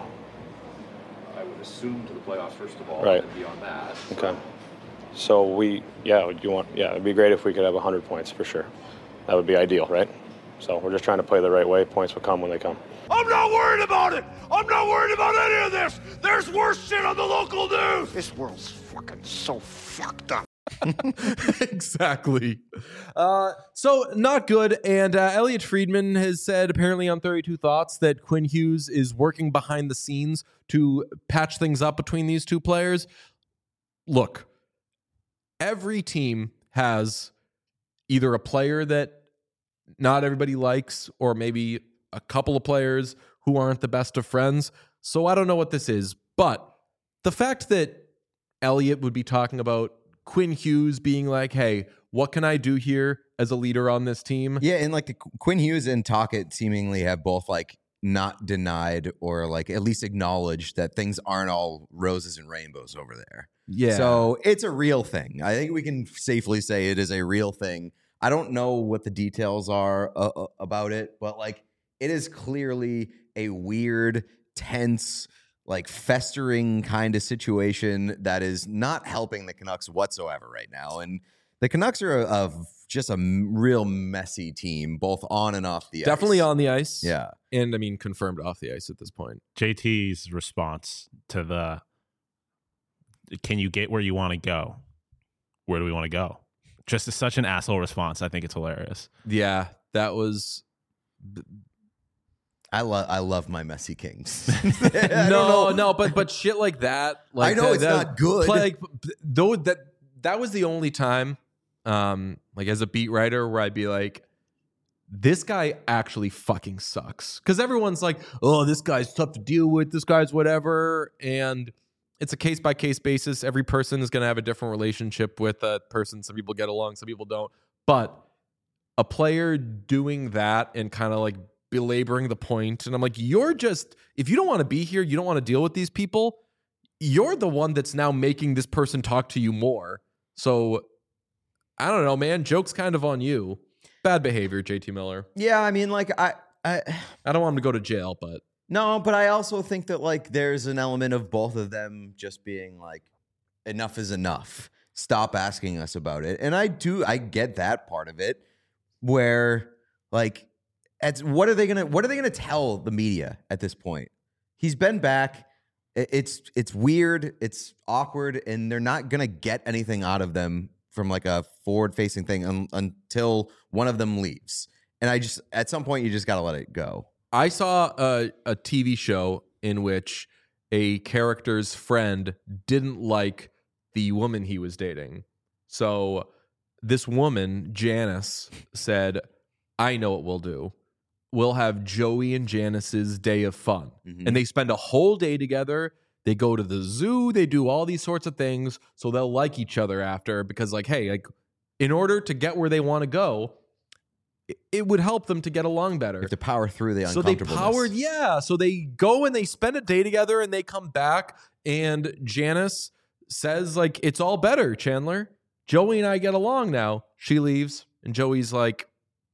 I would assume to the playoffs first of all, right. And beyond that. Okay. So it'd be great if we could have 100 points for sure. That would be ideal, right? So we're just trying to play the right way. Points will come when they come. I'm not worried about it. I'm not worried about any of this. There's worse shit on the local news. This world's fucking so fucked up. Exactly. So not good. And Elliot Friedman has said apparently on 32 Thoughts that Quinn Hughes is working behind the scenes to patch things up between these two players. Look, every team has either a player that not everybody likes, or maybe a couple of players who aren't the best of friends. So I don't know what this is, but the fact that Elliott would be talking about Quinn Hughes being like, hey, what can I do here as a leader on this team? Yeah, and like Quinn Hughes and Tocchet seemingly have both like not denied or like at least acknowledged that things aren't all roses and rainbows over there. Yeah. So it's a real thing. I think we can safely say it is a real thing. I don't know what the details are about it, but like it is clearly a weird, tense, like festering kind of situation that is not helping the Canucks whatsoever right now. And the Canucks are just a real messy team, both on and off the ice. Definitely on the ice. Yeah. And I mean, confirmed off the ice at this point. JT's response to the, can you get where you want to go? Where do we want to go? Just such an asshole response. I think it's hilarious. Yeah, that was... I love my messy Kings. No, but shit like that. Like I know it's not good. Though that was the only time, like as a beat writer, where I'd be like, this guy actually fucking sucks. Because everyone's like, oh, this guy's tough to deal with. This guy's whatever. And it's a case by case basis. Every person is going to have a different relationship with a person. Some people get along, some people don't. But a player doing that and kind of like belaboring the point, and I'm like, you're just, if you don't want to be here, you don't want to deal with these people, you're the one that's now making this person talk to you more. So I don't know, man. Joke's kind of on you. Bad behavior, JT Miller. Yeah, I mean, like I don't want him to go to jail, but no, but I also think that like there's an element of both of them just being like, enough is enough. Stop asking us about it. And I get that part of it, where like, what are they gonna tell the media at this point? He's been back. It's weird. It's awkward, and they're not gonna get anything out of them from like a forward-facing thing until one of them leaves. And at some point, you just gotta let it go. I saw a TV show in which a character's friend didn't like the woman he was dating. So this woman, Janice, said, I know what we'll do. We'll have Joey and Janice's day of fun. Mm-hmm. And they spend a whole day together. They go to the zoo. They do all these sorts of things. So they'll like each other after, because like, hey, like in order to get where they want to go, it would help them to get along better. You have to power through the uncomfortableness. So they go and they spend a day together, and they come back, and Janice says like, it's all better, Chandler. Joey and I get along now. She leaves, and Joey's like,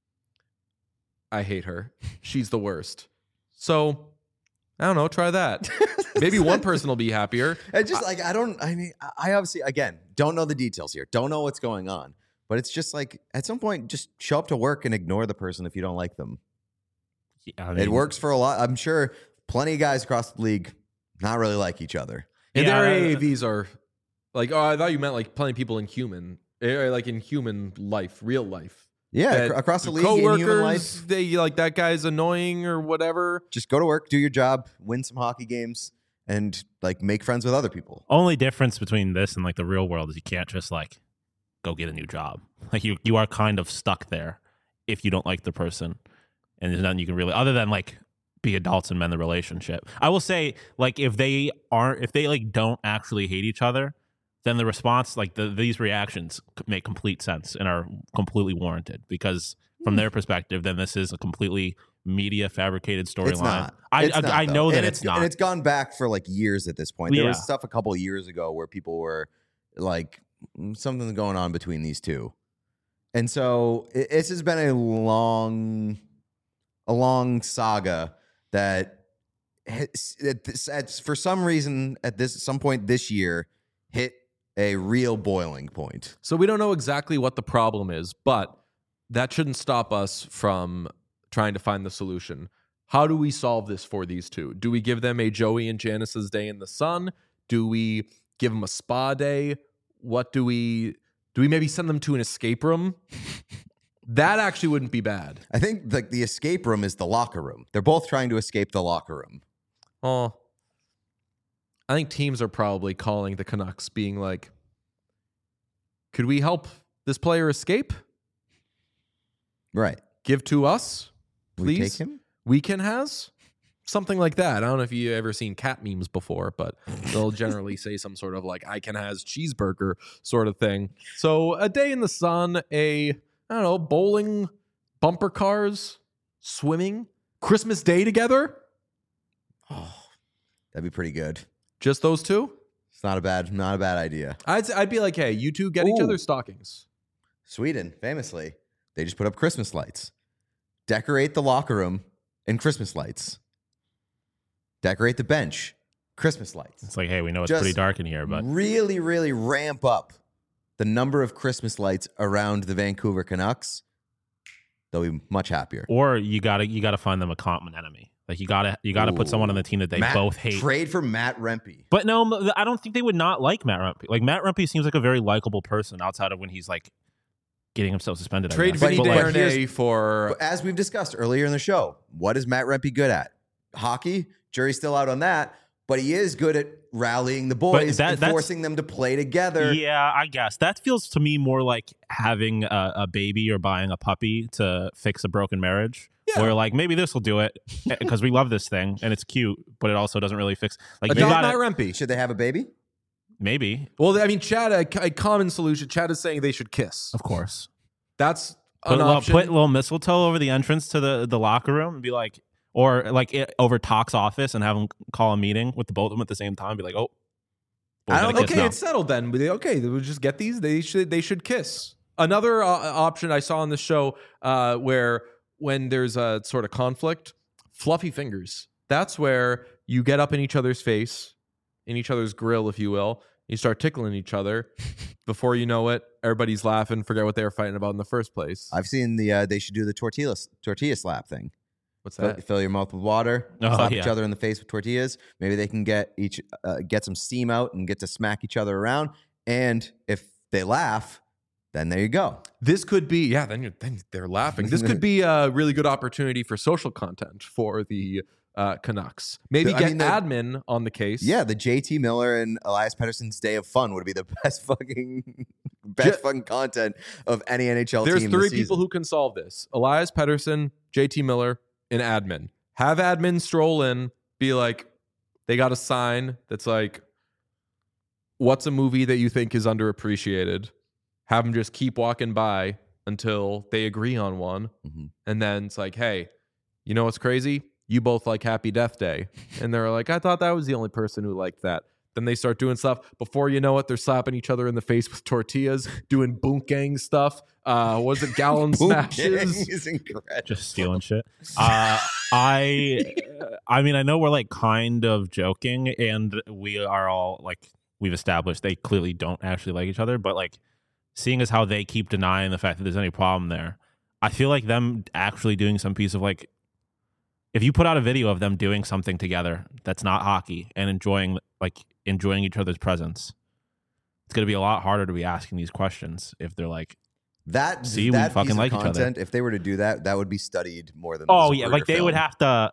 I hate her. She's the worst. So, I don't know. Try that. Maybe one person will be happier. And just like, I obviously, again, don't know the details here. Don't know what's going on. But it's just like, at some point, just show up to work and ignore the person if you don't like them. Yeah, I mean, it works for a lot. I'm sure plenty of guys across the league not really like each other. And their AAVs are like, oh, I thought you meant like plenty of people in human life, real life. Yeah, across the league, in human life. They like, that guy's annoying or whatever. Just go to work, do your job, win some hockey games, and like make friends with other people. Only difference between this and like the real world is you can't just like go get a new job. Like you are kind of stuck there if you don't like the person, and there's nothing you can really, other than like be adults and mend the relationship. I will say, like, if they like don't actually hate each other, then the response, like these reactions make complete sense and are completely warranted, because from their perspective, then this is a completely media fabricated storyline. I know that it's not. And it's gone back for like years at this point. There was stuff a couple of years ago where people were like, something's going on between these two. And so this has been a long saga that for some reason at some point this year hit a real boiling point. So we don't know exactly what the problem is, but that shouldn't stop us from trying to find the solution. How do we solve this for these two? Do we give them a Joey and Janice's day in the sun? Do we give them a spa day? What do we maybe send them to an escape room? That actually wouldn't be bad. I think like the escape room is the locker room. They're both trying to escape the locker room. Oh, I think teams are probably calling the Canucks being like, could we help this player escape? Right. Give to us, please. We take him? Weekend has something like that. I don't know if you ever seen cat memes before, but they'll generally say some sort of like I can has cheeseburger sort of thing. So a day in the sun, I don't know, bowling, bumper cars, swimming, Christmas Day together. Oh, that'd be pretty good. Just those two? It's not a bad idea. I'd be like, hey, you two get each other's stockings. Sweden, famously, they just put up Christmas lights. Decorate the locker room in Christmas lights. Decorate the bench, Christmas lights. It's like, hey, we know it's Just pretty dark in here, but really, really ramp up the number of Christmas lights around the Vancouver Canucks. They'll be much happier. Or you gotta find them a common enemy. Like you gotta put someone on the team that they both hate. Trade for Matt Rempe. But no, I don't think they would not like Matt Rempe. Like Matt Rempe seems like a very likable person outside of when he's like getting himself suspended. Trade Vinny Desharnais for... As we've discussed earlier in the show, what is Matt Rempe good at? Hockey? Jury's still out on that. But he is good at rallying the boys and forcing them to play together. Yeah, I guess. That feels to me more like having a baby or buying a puppy to fix a broken marriage. Yeah. Where like maybe this will do it because we love this thing and it's cute, but it also doesn't really fix. Like Matt Rempe. Should they have a baby? Maybe. Well, I mean, Chad, a common solution. Chad is saying they should kiss. Of course. That's an option. Put a little mistletoe over the entrance to the locker room and be like, or like over Talk's office and have them call a meeting with the both of them at the same time. Be like, oh, okay, it's settled then. Okay, they would just get these. They should kiss. Another option I saw on the show where when there's a sort of conflict, fluffy fingers. That's where you get up in each other's face, in each other's grill, if you will. You start tickling each other. Before you know it, everybody's laughing, forget what they were fighting about in the first place. I've seen they should do the tortilla slap thing. What's that? Fill your mouth with water, slap each other in the face with tortillas. Maybe they can get some steam out and get to smack each other around. And if they laugh, then there you go. This could be, then they're laughing. This could be a really good opportunity for social content for the Canucks. Maybe admin on the case. Yeah, the JT Miller and Elias Pettersson's Day of Fun would be the best fucking content of any NHL There's team. There's 3 people who can solve this: Elias Pettersson, JT Miller, and admin. Have admin stroll in, be like, they got a sign that's like, what's a movie that you think is underappreciated? Have them just keep walking by until they agree on one. Mm-hmm. And then it's like, hey, you know what's crazy? You both like Happy Death Day. And they're like, I thought that was the only person who liked that. Then they start doing stuff. Before you know it, they're slapping each other in the face with tortillas, doing boonk gang stuff. Was it gallon smashes? Is incredible. Just stealing shit. I mean, I know we're like kind of joking, and we are all like, we've established they clearly don't actually like each other, but like, seeing as how they keep denying the fact that there's any problem there, I feel like them actually doing some piece of like, if you put out a video of them doing something together that's not hockey and enjoying each other's presence, it's going to be a lot harder to be asking these questions if they're like, that we fucking like each other. If they were to do that, that would be studied more than. Oh yeah, like they would have to.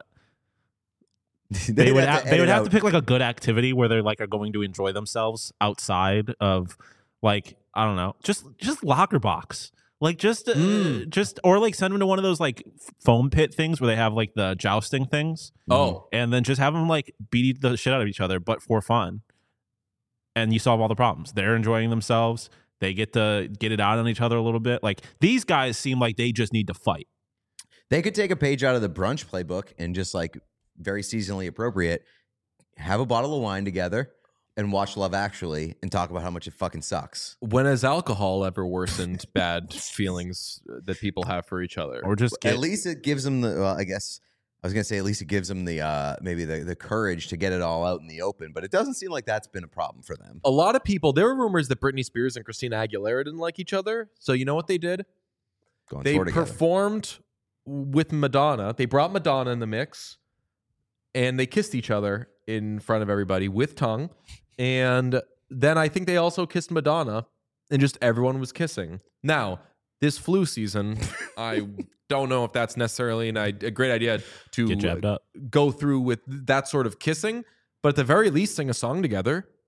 They would have to pick like a good activity where they're like are going to enjoy themselves outside of like, I don't know, just locker box. Like just or like send them to one of those like foam pit things where they have like the jousting things. Oh, and then just have them like beat the shit out of each other, but for fun. And you solve all the problems. They're enjoying themselves. They get to get it out on each other a little bit. Like these guys seem like they just need to fight. They could take a page out of the brunch playbook and just like very seasonally appropriate, have a bottle of wine together and watch Love Actually and talk about how much it fucking sucks. When has alcohol ever worsened bad feelings that people have for each other? Or just at least it gives them the, well, I guess I was going to say at least it gives them the maybe the courage to get it all out in the open, but it doesn't seem like that's been a problem for them. A lot of people, there were rumors that Britney Spears and Christina Aguilera didn't like each other. So you know what they did? They performed with Madonna. They brought Madonna in the mix and they kissed each other in front of everybody with tongue. And then I think they also kissed Madonna and just everyone was kissing. Now, this flu season, I don't know if that's necessarily a great idea to get jabbed up. Go through with that sort of kissing, but at the very least, sing a song together.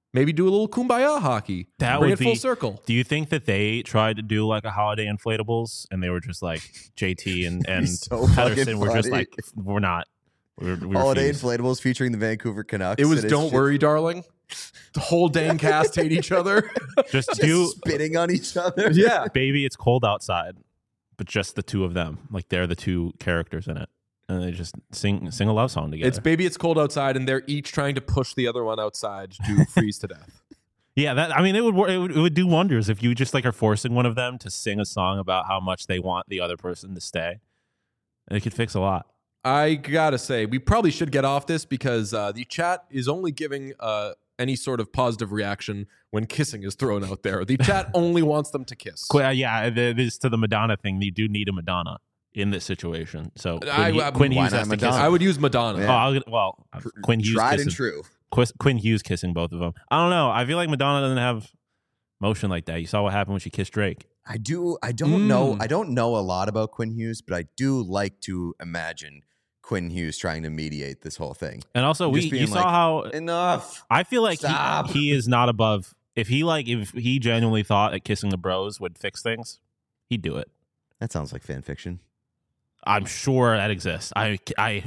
Maybe do a little kumbaya hockey. That Bring would it full be, circle. Do you think that they tried to do like a holiday inflatables and they were just like J.T. and so Pedersen were just funny. like, we're not. We Holiday refuse. inflatables featuring the Vancouver Canucks. It was and it's Don't just- Worry, Darling. The whole dang cast hate each other. Just just do spitting on each other. Yeah. Baby, It's Cold Outside, but just the two of them. Like they're the two characters in it. And they just sing a love song together. It's Baby, It's Cold Outside, and they're each trying to push the other one outside to freeze to death. Yeah, that I mean, it would do wonders if you just like are forcing one of them to sing a song about how much they want the other person to stay. It could fix a lot. I gotta say, we probably should get off this because the chat is only giving any sort of positive reaction when kissing is thrown out there. The chat only wants them to kiss. Yeah, it is to the Madonna thing. You do need a Madonna in this situation. So Quinn Hughes has to kiss. I would use Madonna. Yeah. Quinn Hughes Tried kissing, and true. Quinn Hughes kissing both of them. I don't know. I feel like Madonna doesn't have motion like that. You saw what happened when she kissed Drake. I don't know. I don't know a lot about Quinn Hughes, but I do like to imagine Quinn Hughes trying to mediate this whole thing. And also, you saw how enough. I feel like he is not above. If he genuinely thought that kissing the bros would fix things, he'd do it. That sounds like fan fiction. I'm sure that exists. I've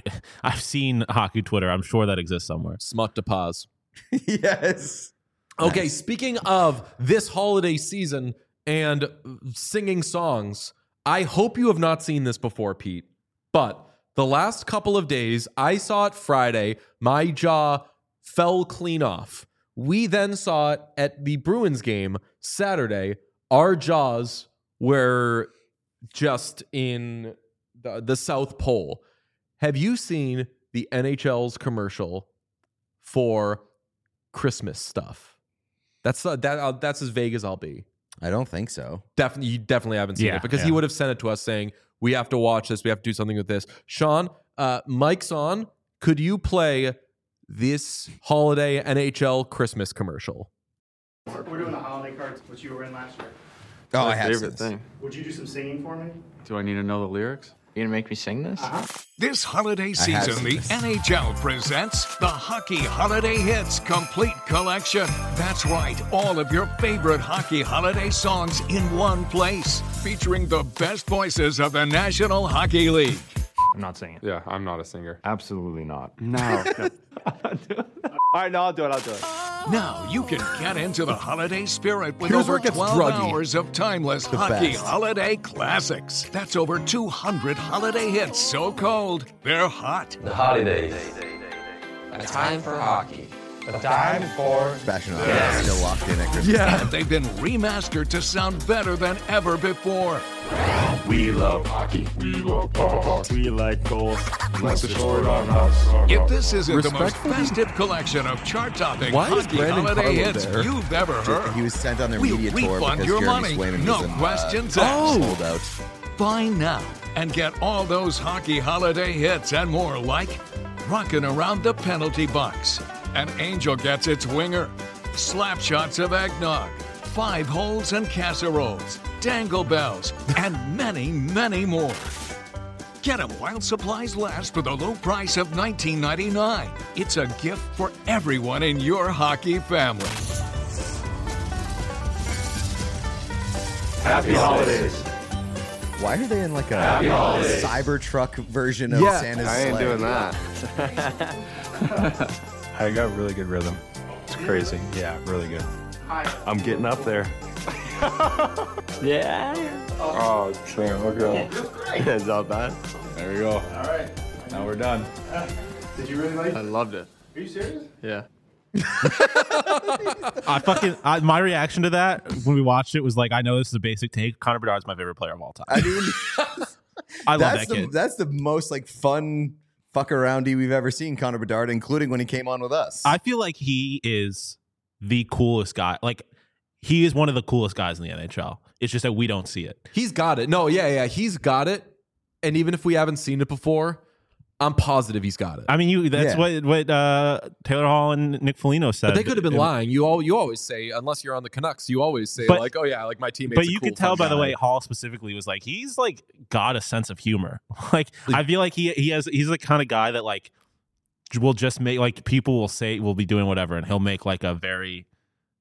seen hockey Twitter. I'm sure that exists somewhere. Smut to pause. Yes. Okay, Nice. speaking of this holiday season and singing songs, I hope you have not seen this before, Pete, but the last couple of days, I saw it Friday. My jaw fell clean off. We then saw it at the Bruins game Saturday. Our jaws were just in the South Pole. Have you seen the NHL's commercial for Christmas stuff? That's as vague as I'll be. I don't think so. You definitely haven't seen it because he would have sent it to us saying, we have to watch this. We have to do something with this. Sean, mic's on. Could you play this holiday NHL Christmas commercial? We're doing the holiday cards, which you were in last year. Oh, My I have favorite this. thing. Would you do some singing for me? Do I need to know the lyrics? You gonna make me sing this? This holiday I have season, the this. NHL presents the Hockey Holiday Hits Complete Collection. That's right, all of your favorite hockey holiday songs in one place, featuring the best voices of the National Hockey League. I'm not singing. Yeah, I'm not a singer. Absolutely not. No. All right, no, I'll do it. Now you can get into the holiday spirit with Here's where over it gets 12 druggy. hours of timeless The hockey best. holiday classics. That's over 200 holiday hits so cold, they're hot. The holidays. A time for hockey. A time for... Sebastian is still locked in at Christmas. And they've been remastered to sound better than ever before. We love hockey. We love hockey. We like goals. Let the sword on us. If this isn't the most Respectfully? festive collection of chart-topping Why is hockey Brandon holiday Carlo hits there? you've ever heard, He was sent on their we'll media tour refund because your Jeremy money. Swayman No was questions Oh. asked. sold out. Buy now and get all those hockey holiday hits and more like Rockin' Around the Penalty Box, An Angel Gets Its Winger, Slap Shots of Eggnog, 5 Holes and Casseroles, Dangle Bells, and many, many more. Get them while supplies last for the low price of $19.99. It's a gift for everyone in your hockey family. Happy holidays. Why are they in like a Happy holidays. Cybertruck version of Yeah. Santa's I ain't sleigh? doing that. I got really good rhythm. It's crazy. Yeah, really good. I'm getting up there. Yeah. Oh, damn. Okay. It's not bad. There we go. All right. Now we're done. Did you really like it? I loved it. Are you serious? Yeah. My reaction to that when we watched it was like, I know this is a basic take. Connor Bedard's my favorite player of all time. I mean, I love that's that kid. That's the most like fun fuck aroundy we've ever seen Connor Bedard, including when he came on with us. I feel like he is the coolest guy. Like, he is one of the coolest guys in the NHL. It's just that we don't see it. He's got it. No, yeah, he's got it. And even if we haven't seen it before, I'm positive he's got it. I mean, that's Yeah. what Taylor Hall and Nick Foligno said. But they could have been lying. You always say, unless you're on the Canucks, you always say But- like, oh yeah, like my teammate's But a you cool, could tell fun by the guy. way Hall specifically was like, he's like got a sense of humor. Like, I feel like he's the kind of guy that like will just make, like, people will say will be doing whatever and he'll make like a very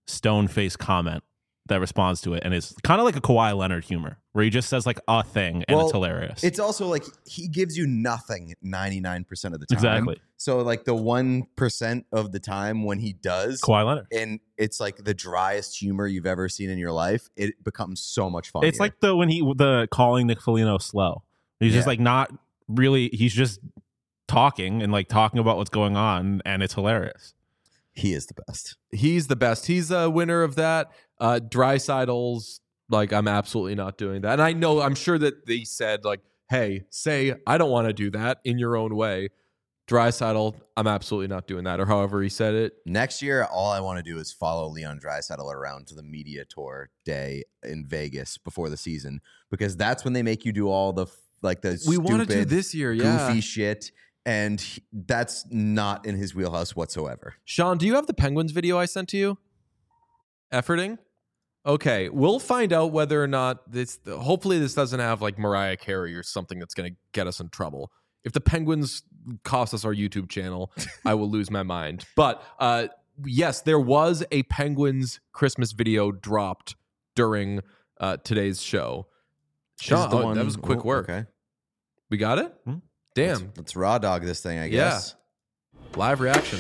stone-faced comment that responds to it, and it's kind of like a Kawhi Leonard humor where he just says like a thing and it's hilarious. It's also like he gives you nothing 99% of the time. Exactly. So like the 1% of the time when he does Kawhi Leonard, and it's like the driest humor you've ever seen in your life, it becomes so much fun. It's like the calling Nick Foligno slow. He's just like not really. He's just talking and like talking about what's going on, and it's hilarious. He is the best. He's the best. He's a winner of that. Dreisaitl's like, I'm absolutely not doing that. And I'm sure that they said like, hey, say I don't want to do that in your own way. Draisaitl, I'm absolutely not doing that, or however he said it. Next year, all I want to do is follow Leon Draisaitl around to the media tour day in Vegas before the season, because that's when they make you do all the we want to do this year, goofy shit. And that's not in his wheelhouse whatsoever. Sean, do you have the Penguins video I sent to you? Efforting? Okay, we'll find out whether or not this. Hopefully, this doesn't have like Mariah Carey or something that's going to get us in trouble. If the Penguins cost us our YouTube channel, I will lose my mind. But yes, there was a Penguins Christmas video dropped during today's show. Sean, that was quick work. Okay. We got it? Damn. Let's raw dog this thing, I guess. Yeah. Live reaction.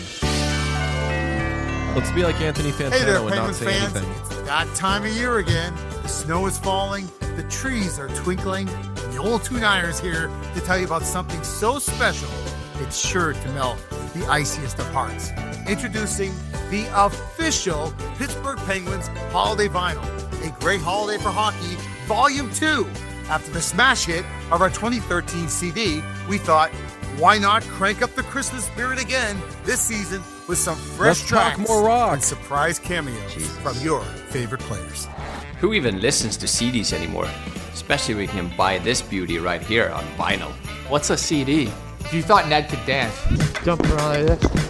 Let's be like Anthony Fantano hey there, and not say fans. anything. It's that time of year again. The snow is falling, the trees are twinkling, and the old Two Niners here to tell you about something so special, it's sure to melt the iciest of hearts. Introducing the official Pittsburgh Penguins Holiday Vinyl, a great holiday for hockey, Volume 2. After the smash hit of our 2013 CD, we thought, why not crank up the Christmas spirit again this season with some fresh tracks more rock and surprise cameos from your favorite players. Who even listens to CDs anymore? Especially when you can buy this beauty right here on vinyl. What's a CD? If you thought Ned could dance, jump around like this.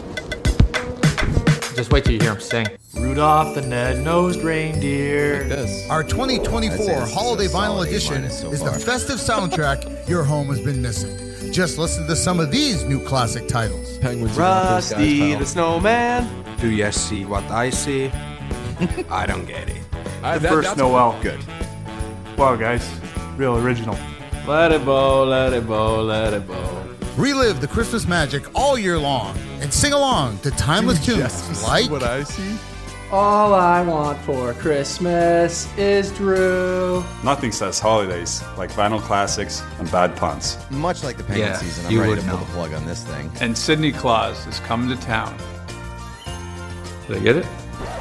Just wait till you hear him sing. Rudolph the Red-Nosed Reindeer. Like Our 2024 Holiday Vinyl Edition is the festive soundtrack your home has been missing. Just listen to some of these new classic titles. Penguins. Rusty the Snowman. Do you see what I see? I don't get it. The first Noel. Good. Wow, guys. Real original. Let it bow, let it bow, let it bow. Relive the Christmas magic all year long and sing along to timeless tunes like What I See. All I want for Christmas is Drew. Nothing says holidays like vinyl classics and bad puns. Much like the Penguin season, I'm ready to pull the plug on this thing. And Sidney Claus is coming to town. Did I get it?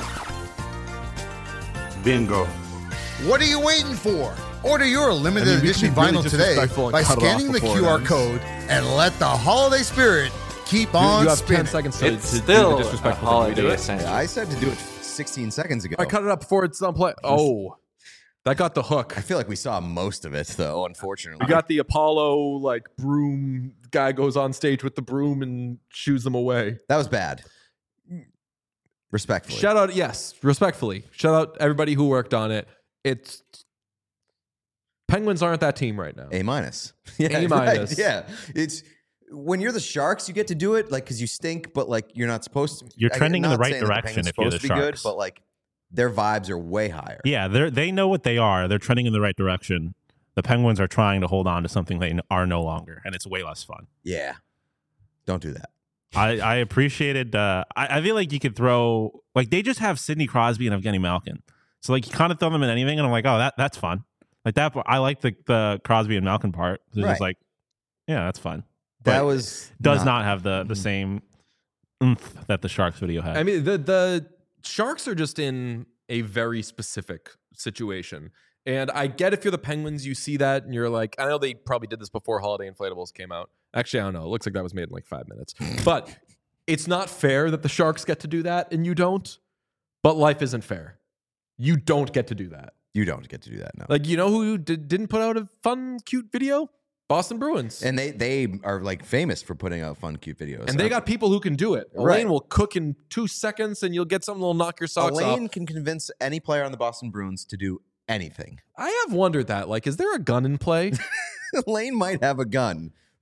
Bingo. What are you waiting for? Order your limited edition vinyl today by scanning the QR code and let the holiday spirit keep on You have spinning. 10 seconds to It's do still the disrespectful a thing. We do holiday it. essential. I said to do it 16 seconds ago. I cut it up before it's on play. Oh, that got the hook. I feel like we saw most of it, though, unfortunately. We got the Apollo like broom guy goes on stage with the broom and shoos them away. That was bad. Respectfully. Shout out, yes, respectfully. Shout out everybody who worked on it. It's Penguins aren't that team right now. A-. Yeah, A-. right, yeah. It's when you're the Sharks, you get to do it, like, because you stink, but like you're not supposed to. You're trending in the right saying that direction Penguins if you're the supposed to be good, Sharks. but like their vibes are way higher. Yeah, they know what they are. They're trending in the right direction. The Penguins are trying to hold on to something they are no longer, and it's way less fun. Yeah. Don't do that. I appreciated. I feel like you could throw like they just have Sidney Crosby and Evgeny Malkin, so like you kind of throw them in anything, and I'm like, oh, that's fun. Like that, I like the Crosby and Malkin part. It's just like, yeah, that's fun. But That was does not have the same oomph that the Sharks video had. I mean, the Sharks are just in a very specific situation. And I get if you're the Penguins, you see that and you're like, I know they probably did this before Holiday Inflatables came out. Actually, I don't know. It looks like that was made in like 5 minutes. But it's not fair that the Sharks get to do that and you don't. But life isn't fair. You don't get to do that. You don't get to do that, no. Like, you know who didn't put out a fun, cute video? Boston Bruins. And they are like famous for putting out fun, cute videos. And they got people who can do it. Right. Elaine will cook in 2 seconds and you'll get something that'll knock your socks off. Elaine can convince any player on the Boston Bruins to do anything. I have wondered that. Like, is there a gun in play? Elaine might have a gun,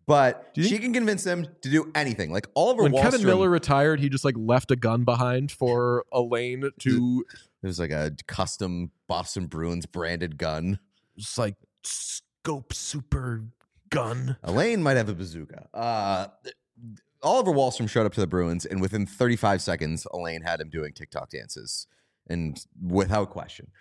But she can convince them to do anything. Like Oliver when Wahlstrom. Kevin Miller retired, he just like left a gun behind for Elaine to. It was like a custom Boston Bruins branded gun. Just like scope super gun. Elaine might have a bazooka. Oliver Wahlstrom showed up to the Bruins, and within 35 seconds, Elaine had him doing TikTok dances, and without question.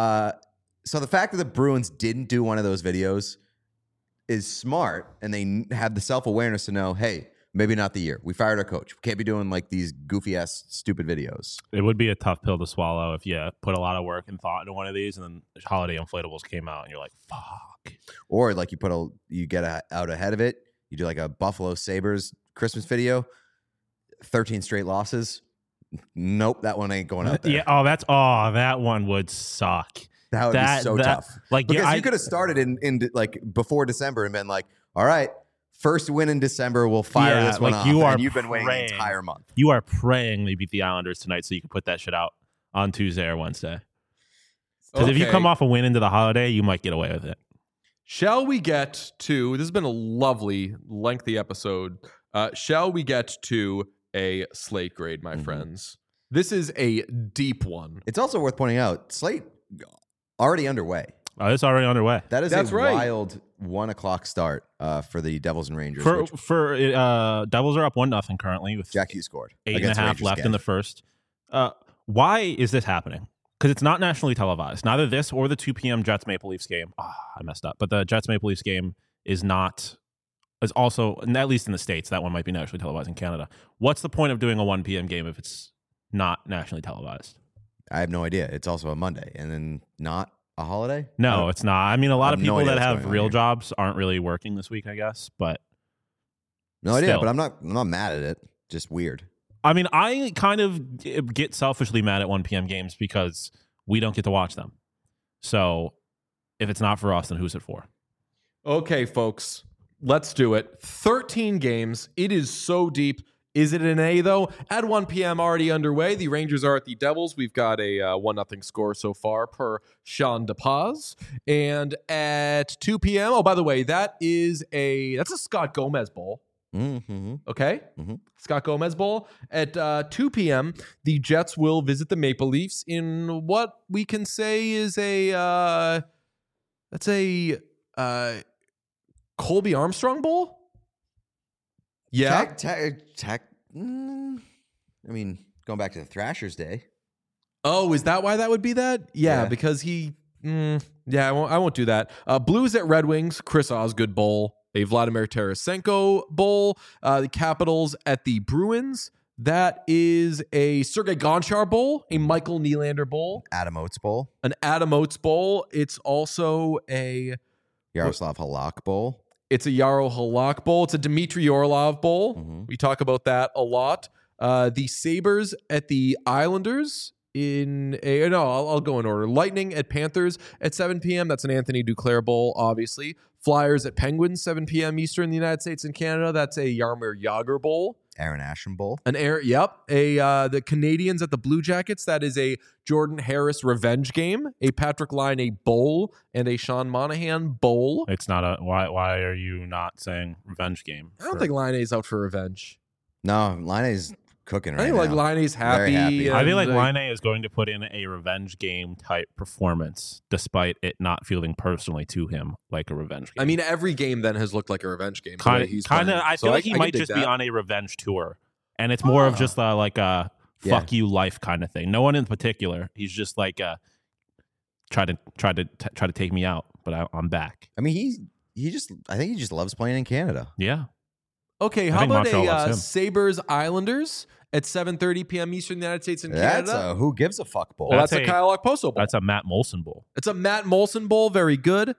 So the fact that the Bruins didn't do one of those videos is smart, and they have the self-awareness to know, hey, maybe not the year. We fired our coach. We can't be doing like these goofy-ass stupid videos. It would be a tough pill to swallow if you put a lot of work and thought into one of these, and then holiday inflatables came out, and you're like, fuck. Or like you get out ahead of it. You do like a Buffalo Sabres Christmas video, 13 straight losses. Nope, that one ain't going out there. Yeah. That one would suck. That would be so tough. Like, because you could have started in like before December and been like, all right, first win in December, we'll fire this one off. And you've been waiting an entire month. You are praying they beat the Islanders tonight so you can put that shit out on Tuesday or Wednesday. Because if you come off a win into the holiday, you might get away with it. Shall we get to, this has been a lovely, lengthy episode. Shall we get to a slate grade, my friends? This is a deep one. It's also worth pointing out, slate already underway. Oh, it's already underway. That's right. Wild 1:00 start for the Devils and Rangers. Devils are up 1-0 currently with Jack Hughes scored 8.5 left in the first. Why is this happening? Because it's not nationally televised. Neither this or the 2 p.m. Jets Maple Leafs game. I messed up. But the Jets Maple Leafs game is also, at least in the States, that one might be nationally televised in Canada. What's the point of doing a 1 p.m. game if it's not nationally televised? I have no idea. It's also a Monday and then not a holiday? No, it's not. I mean, a lot of people that have real jobs aren't really working this week, I guess. But no idea. But I'm not mad at it. Just weird. I mean, I kind of get selfishly mad at 1 p.m. games because we don't get to watch them. So if it's not for us, then who's it for? Okay, folks, let's do it. 13 games. It is so deep. Is it an A, though? At 1 p.m. already underway. The Rangers are at the Devils. We've got a 1-0 score so far per Sean DePaz. And at 2 p.m., oh, by the way, that's a Scott Gomez Bowl. Mm-hmm. Okay? Mm-hmm. Scott Gomez Bowl. At 2 p.m., the Jets will visit the Maple Leafs in what we can say is Colby Armstrong Bowl? Yeah. I mean, going back to the Thrashers day. Oh, is that why that would be that? Yeah. Because I won't do that. Blues at Red Wings, Chris Osgood Bowl, a Vladimir Tarasenko Bowl. The Capitals at the Bruins. That is a Sergei Gonchar Bowl, a Michael Nylander Bowl. Adam Oates Bowl. An Adam Oates Bowl. It's also a Yaroslav Halak Bowl. It's a Yaro Halak Bowl. It's a Dmitry Orlov Bowl. Mm-hmm. We talk about that a lot. The Sabres at the Islanders I'll go in order. Lightning at Panthers at 7 p.m. That's an Anthony Duclair Bowl, obviously. Flyers at Penguins, 7 p.m. Eastern in the United States and Canada. That's a Jaromir Jagr Bowl. Aaron Asham Bowl. The Canadians at the Blue Jackets. That is a Jordan Harris revenge game. A Patrick Laine Bowl and a Sean Monahan Bowl. It's not a. Why are you not saying revenge game? I don't think Laine's out for revenge. No, Laine's cooking right now. I think Laine's happy. Very happy. I feel like Laine is going to put in a revenge game type performance, despite it not feeling personally to him like a revenge game. I mean, every game then has looked like a revenge game. Kind of. I feel like he might just be on a revenge tour, and it's more of just like a fuck you life kind of thing. No one in particular. He's just like try to take me out, but I'm back. I mean, I think he just loves playing in Canada. Yeah. Okay, how about a Sabres Islanders at 7:30 p.m. Eastern United States and Canada? That's a who gives a fuck bowl. Well, that's a Kyle Okposo Bowl. That's a Matt Molson Bowl. It's a Matt Molson Bowl. Very good.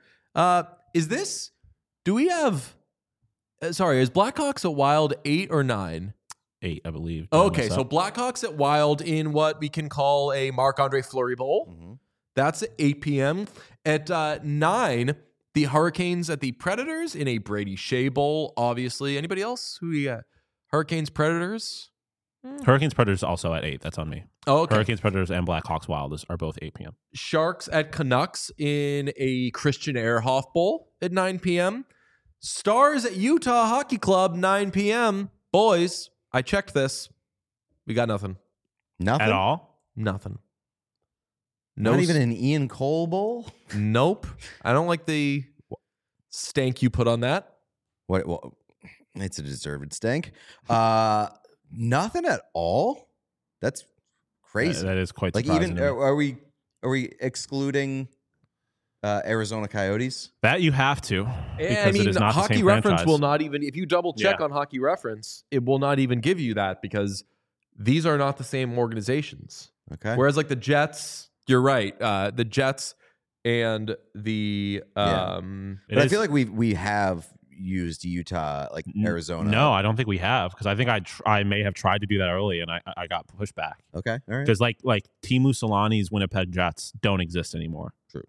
Do we have, is Blackhawks at Wild 8 or 9? 8, I believe. Okay, so Blackhawks at Wild in what we can call a Marc-Andre Fleury Bowl. Mm-hmm. That's at 8 p.m. At 9, the Hurricanes at the Predators in a Brady Shea Bowl, obviously. Anybody else? Who we got? Hurricanes, Predators? Hurricanes, Predators also at 8. That's on me. Oh, okay. Hurricanes, Predators, and Blackhawks Wild are both 8 p.m. Sharks at Canucks in a Christian Ehrhoff Bowl at 9 p.m. Stars at Utah Hockey Club, 9 p.m. Boys, I checked this. We got nothing. Nothing? At all? Nothing. Not even an Ian Cole bowl? Nope. I don't like the stank you put on that. What? Well, it's a deserved stank. Nothing at all? That's crazy. That is quite like surprising. Even are we excluding Arizona Coyotes? That you have to. I mean, Hockey Reference will not even, if you double check on Hockey Reference, it will not even give you that because these are not the same organizations. Okay. Whereas like the Jets, you're right. The Jets and the but I feel like we have used Utah, like Arizona. No, I don't think we have because I think I may have tried to do that early and I got pushed back. Okay, all right. Because like Teemu Solani's Winnipeg Jets don't exist anymore. True.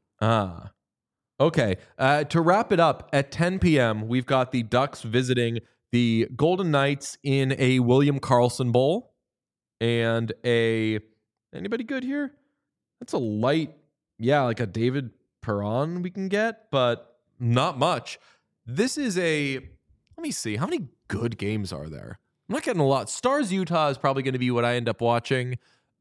Okay. To wrap it up, at 10 p.m., we've got the Ducks visiting the Golden Knights in a William Karlsson Bowl and anybody good here? That's a light, like a David Perron we can get, but not much. This is let me see, how many good games are there? I'm not getting a lot. Stars Utah is probably going to be what I end up watching.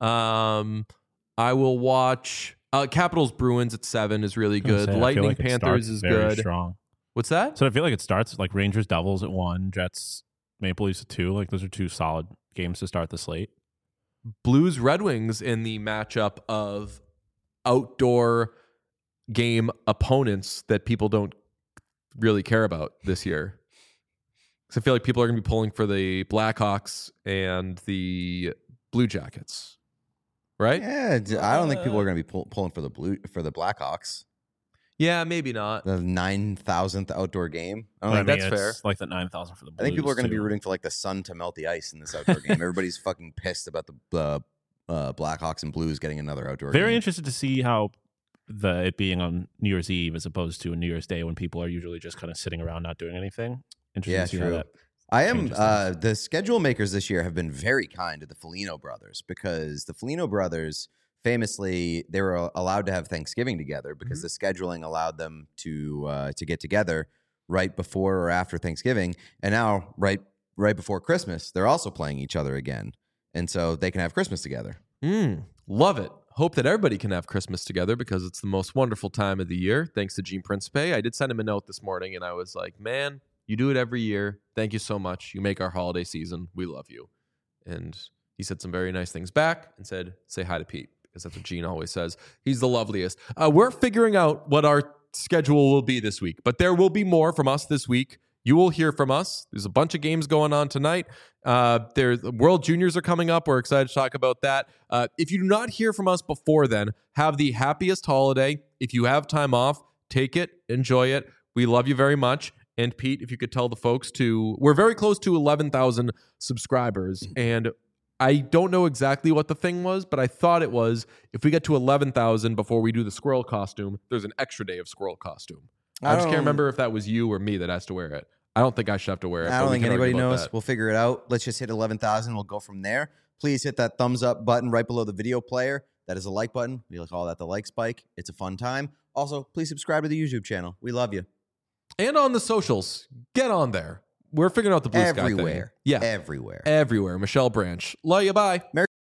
I will watch Capitals Bruins at 7 is really good. Lightning Panthers is good. Strong. What's that? So I feel like it starts like Rangers Devils at 1, Jets Maple Leafs at 2. Like those are 2 solid games to start the slate. Blues Red Wings in the matchup of outdoor game opponents that people don't really care about this year. Because I feel like people are going to be pulling for the Blackhawks and the Blue Jackets, right? Yeah, I don't think people are going to be pulling for the Blackhawks. Yeah, maybe not. The 9,000th outdoor game. I don't think that's fair. Like the 9,000 for the Blues. I think people are going to be rooting for like the sun to melt the ice in this outdoor game. Everybody's fucking pissed about the Blackhawks and Blues getting another outdoor game. Very interested to see how it being on New Year's Eve as opposed to a New Year's Day when people are usually just kind of sitting around not doing anything. Interesting to see how that I am. The schedule makers this year have been very kind to the Foligno brothers because the Foligno brothers famously they were allowed to have Thanksgiving together because the scheduling allowed them to get together right before or after Thanksgiving, and now right before Christmas they're also playing each other again, and so they can have Christmas together. Love it. Hope that everybody can have Christmas together because it's the most wonderful time of the year. Thanks to Gene Principe. I did send him a note this morning and I was like, man, you do it every year. Thank you so much. You make our holiday season. We love you. And he said some very nice things back and said, say hi to Pete because that's what Gene always says. He's the loveliest. We're figuring out what our schedule will be this week, but there will be more from us this week. You will hear from us. There's a bunch of games going on tonight. There's World Juniors are coming up. We're excited to talk about that. If you do not hear from us before then, have the happiest holiday. If you have time off, take it, enjoy it. We love you very much. And Pete, if you could tell the folks we're very close to 11,000 subscribers. And I don't know exactly what the thing was, but I thought it was if we get to 11,000 before we do the squirrel costume, there's an extra day of squirrel costume. I just can't remember if that was you or me that has to wear it. I don't think I should have to wear it. I don't think anybody knows. We'll figure it out. Let's just hit 11,000. We'll go from there. Please hit that thumbs up button right below the video player. That is a like button. We call that the like spike. It's a fun time. Also, please subscribe to the YouTube channel. We love you. And on the socials, get on there. We're figuring out the Blue Sky thing. Everywhere. Yeah. Everywhere. Everywhere. Michelle Branch. Love you. Bye.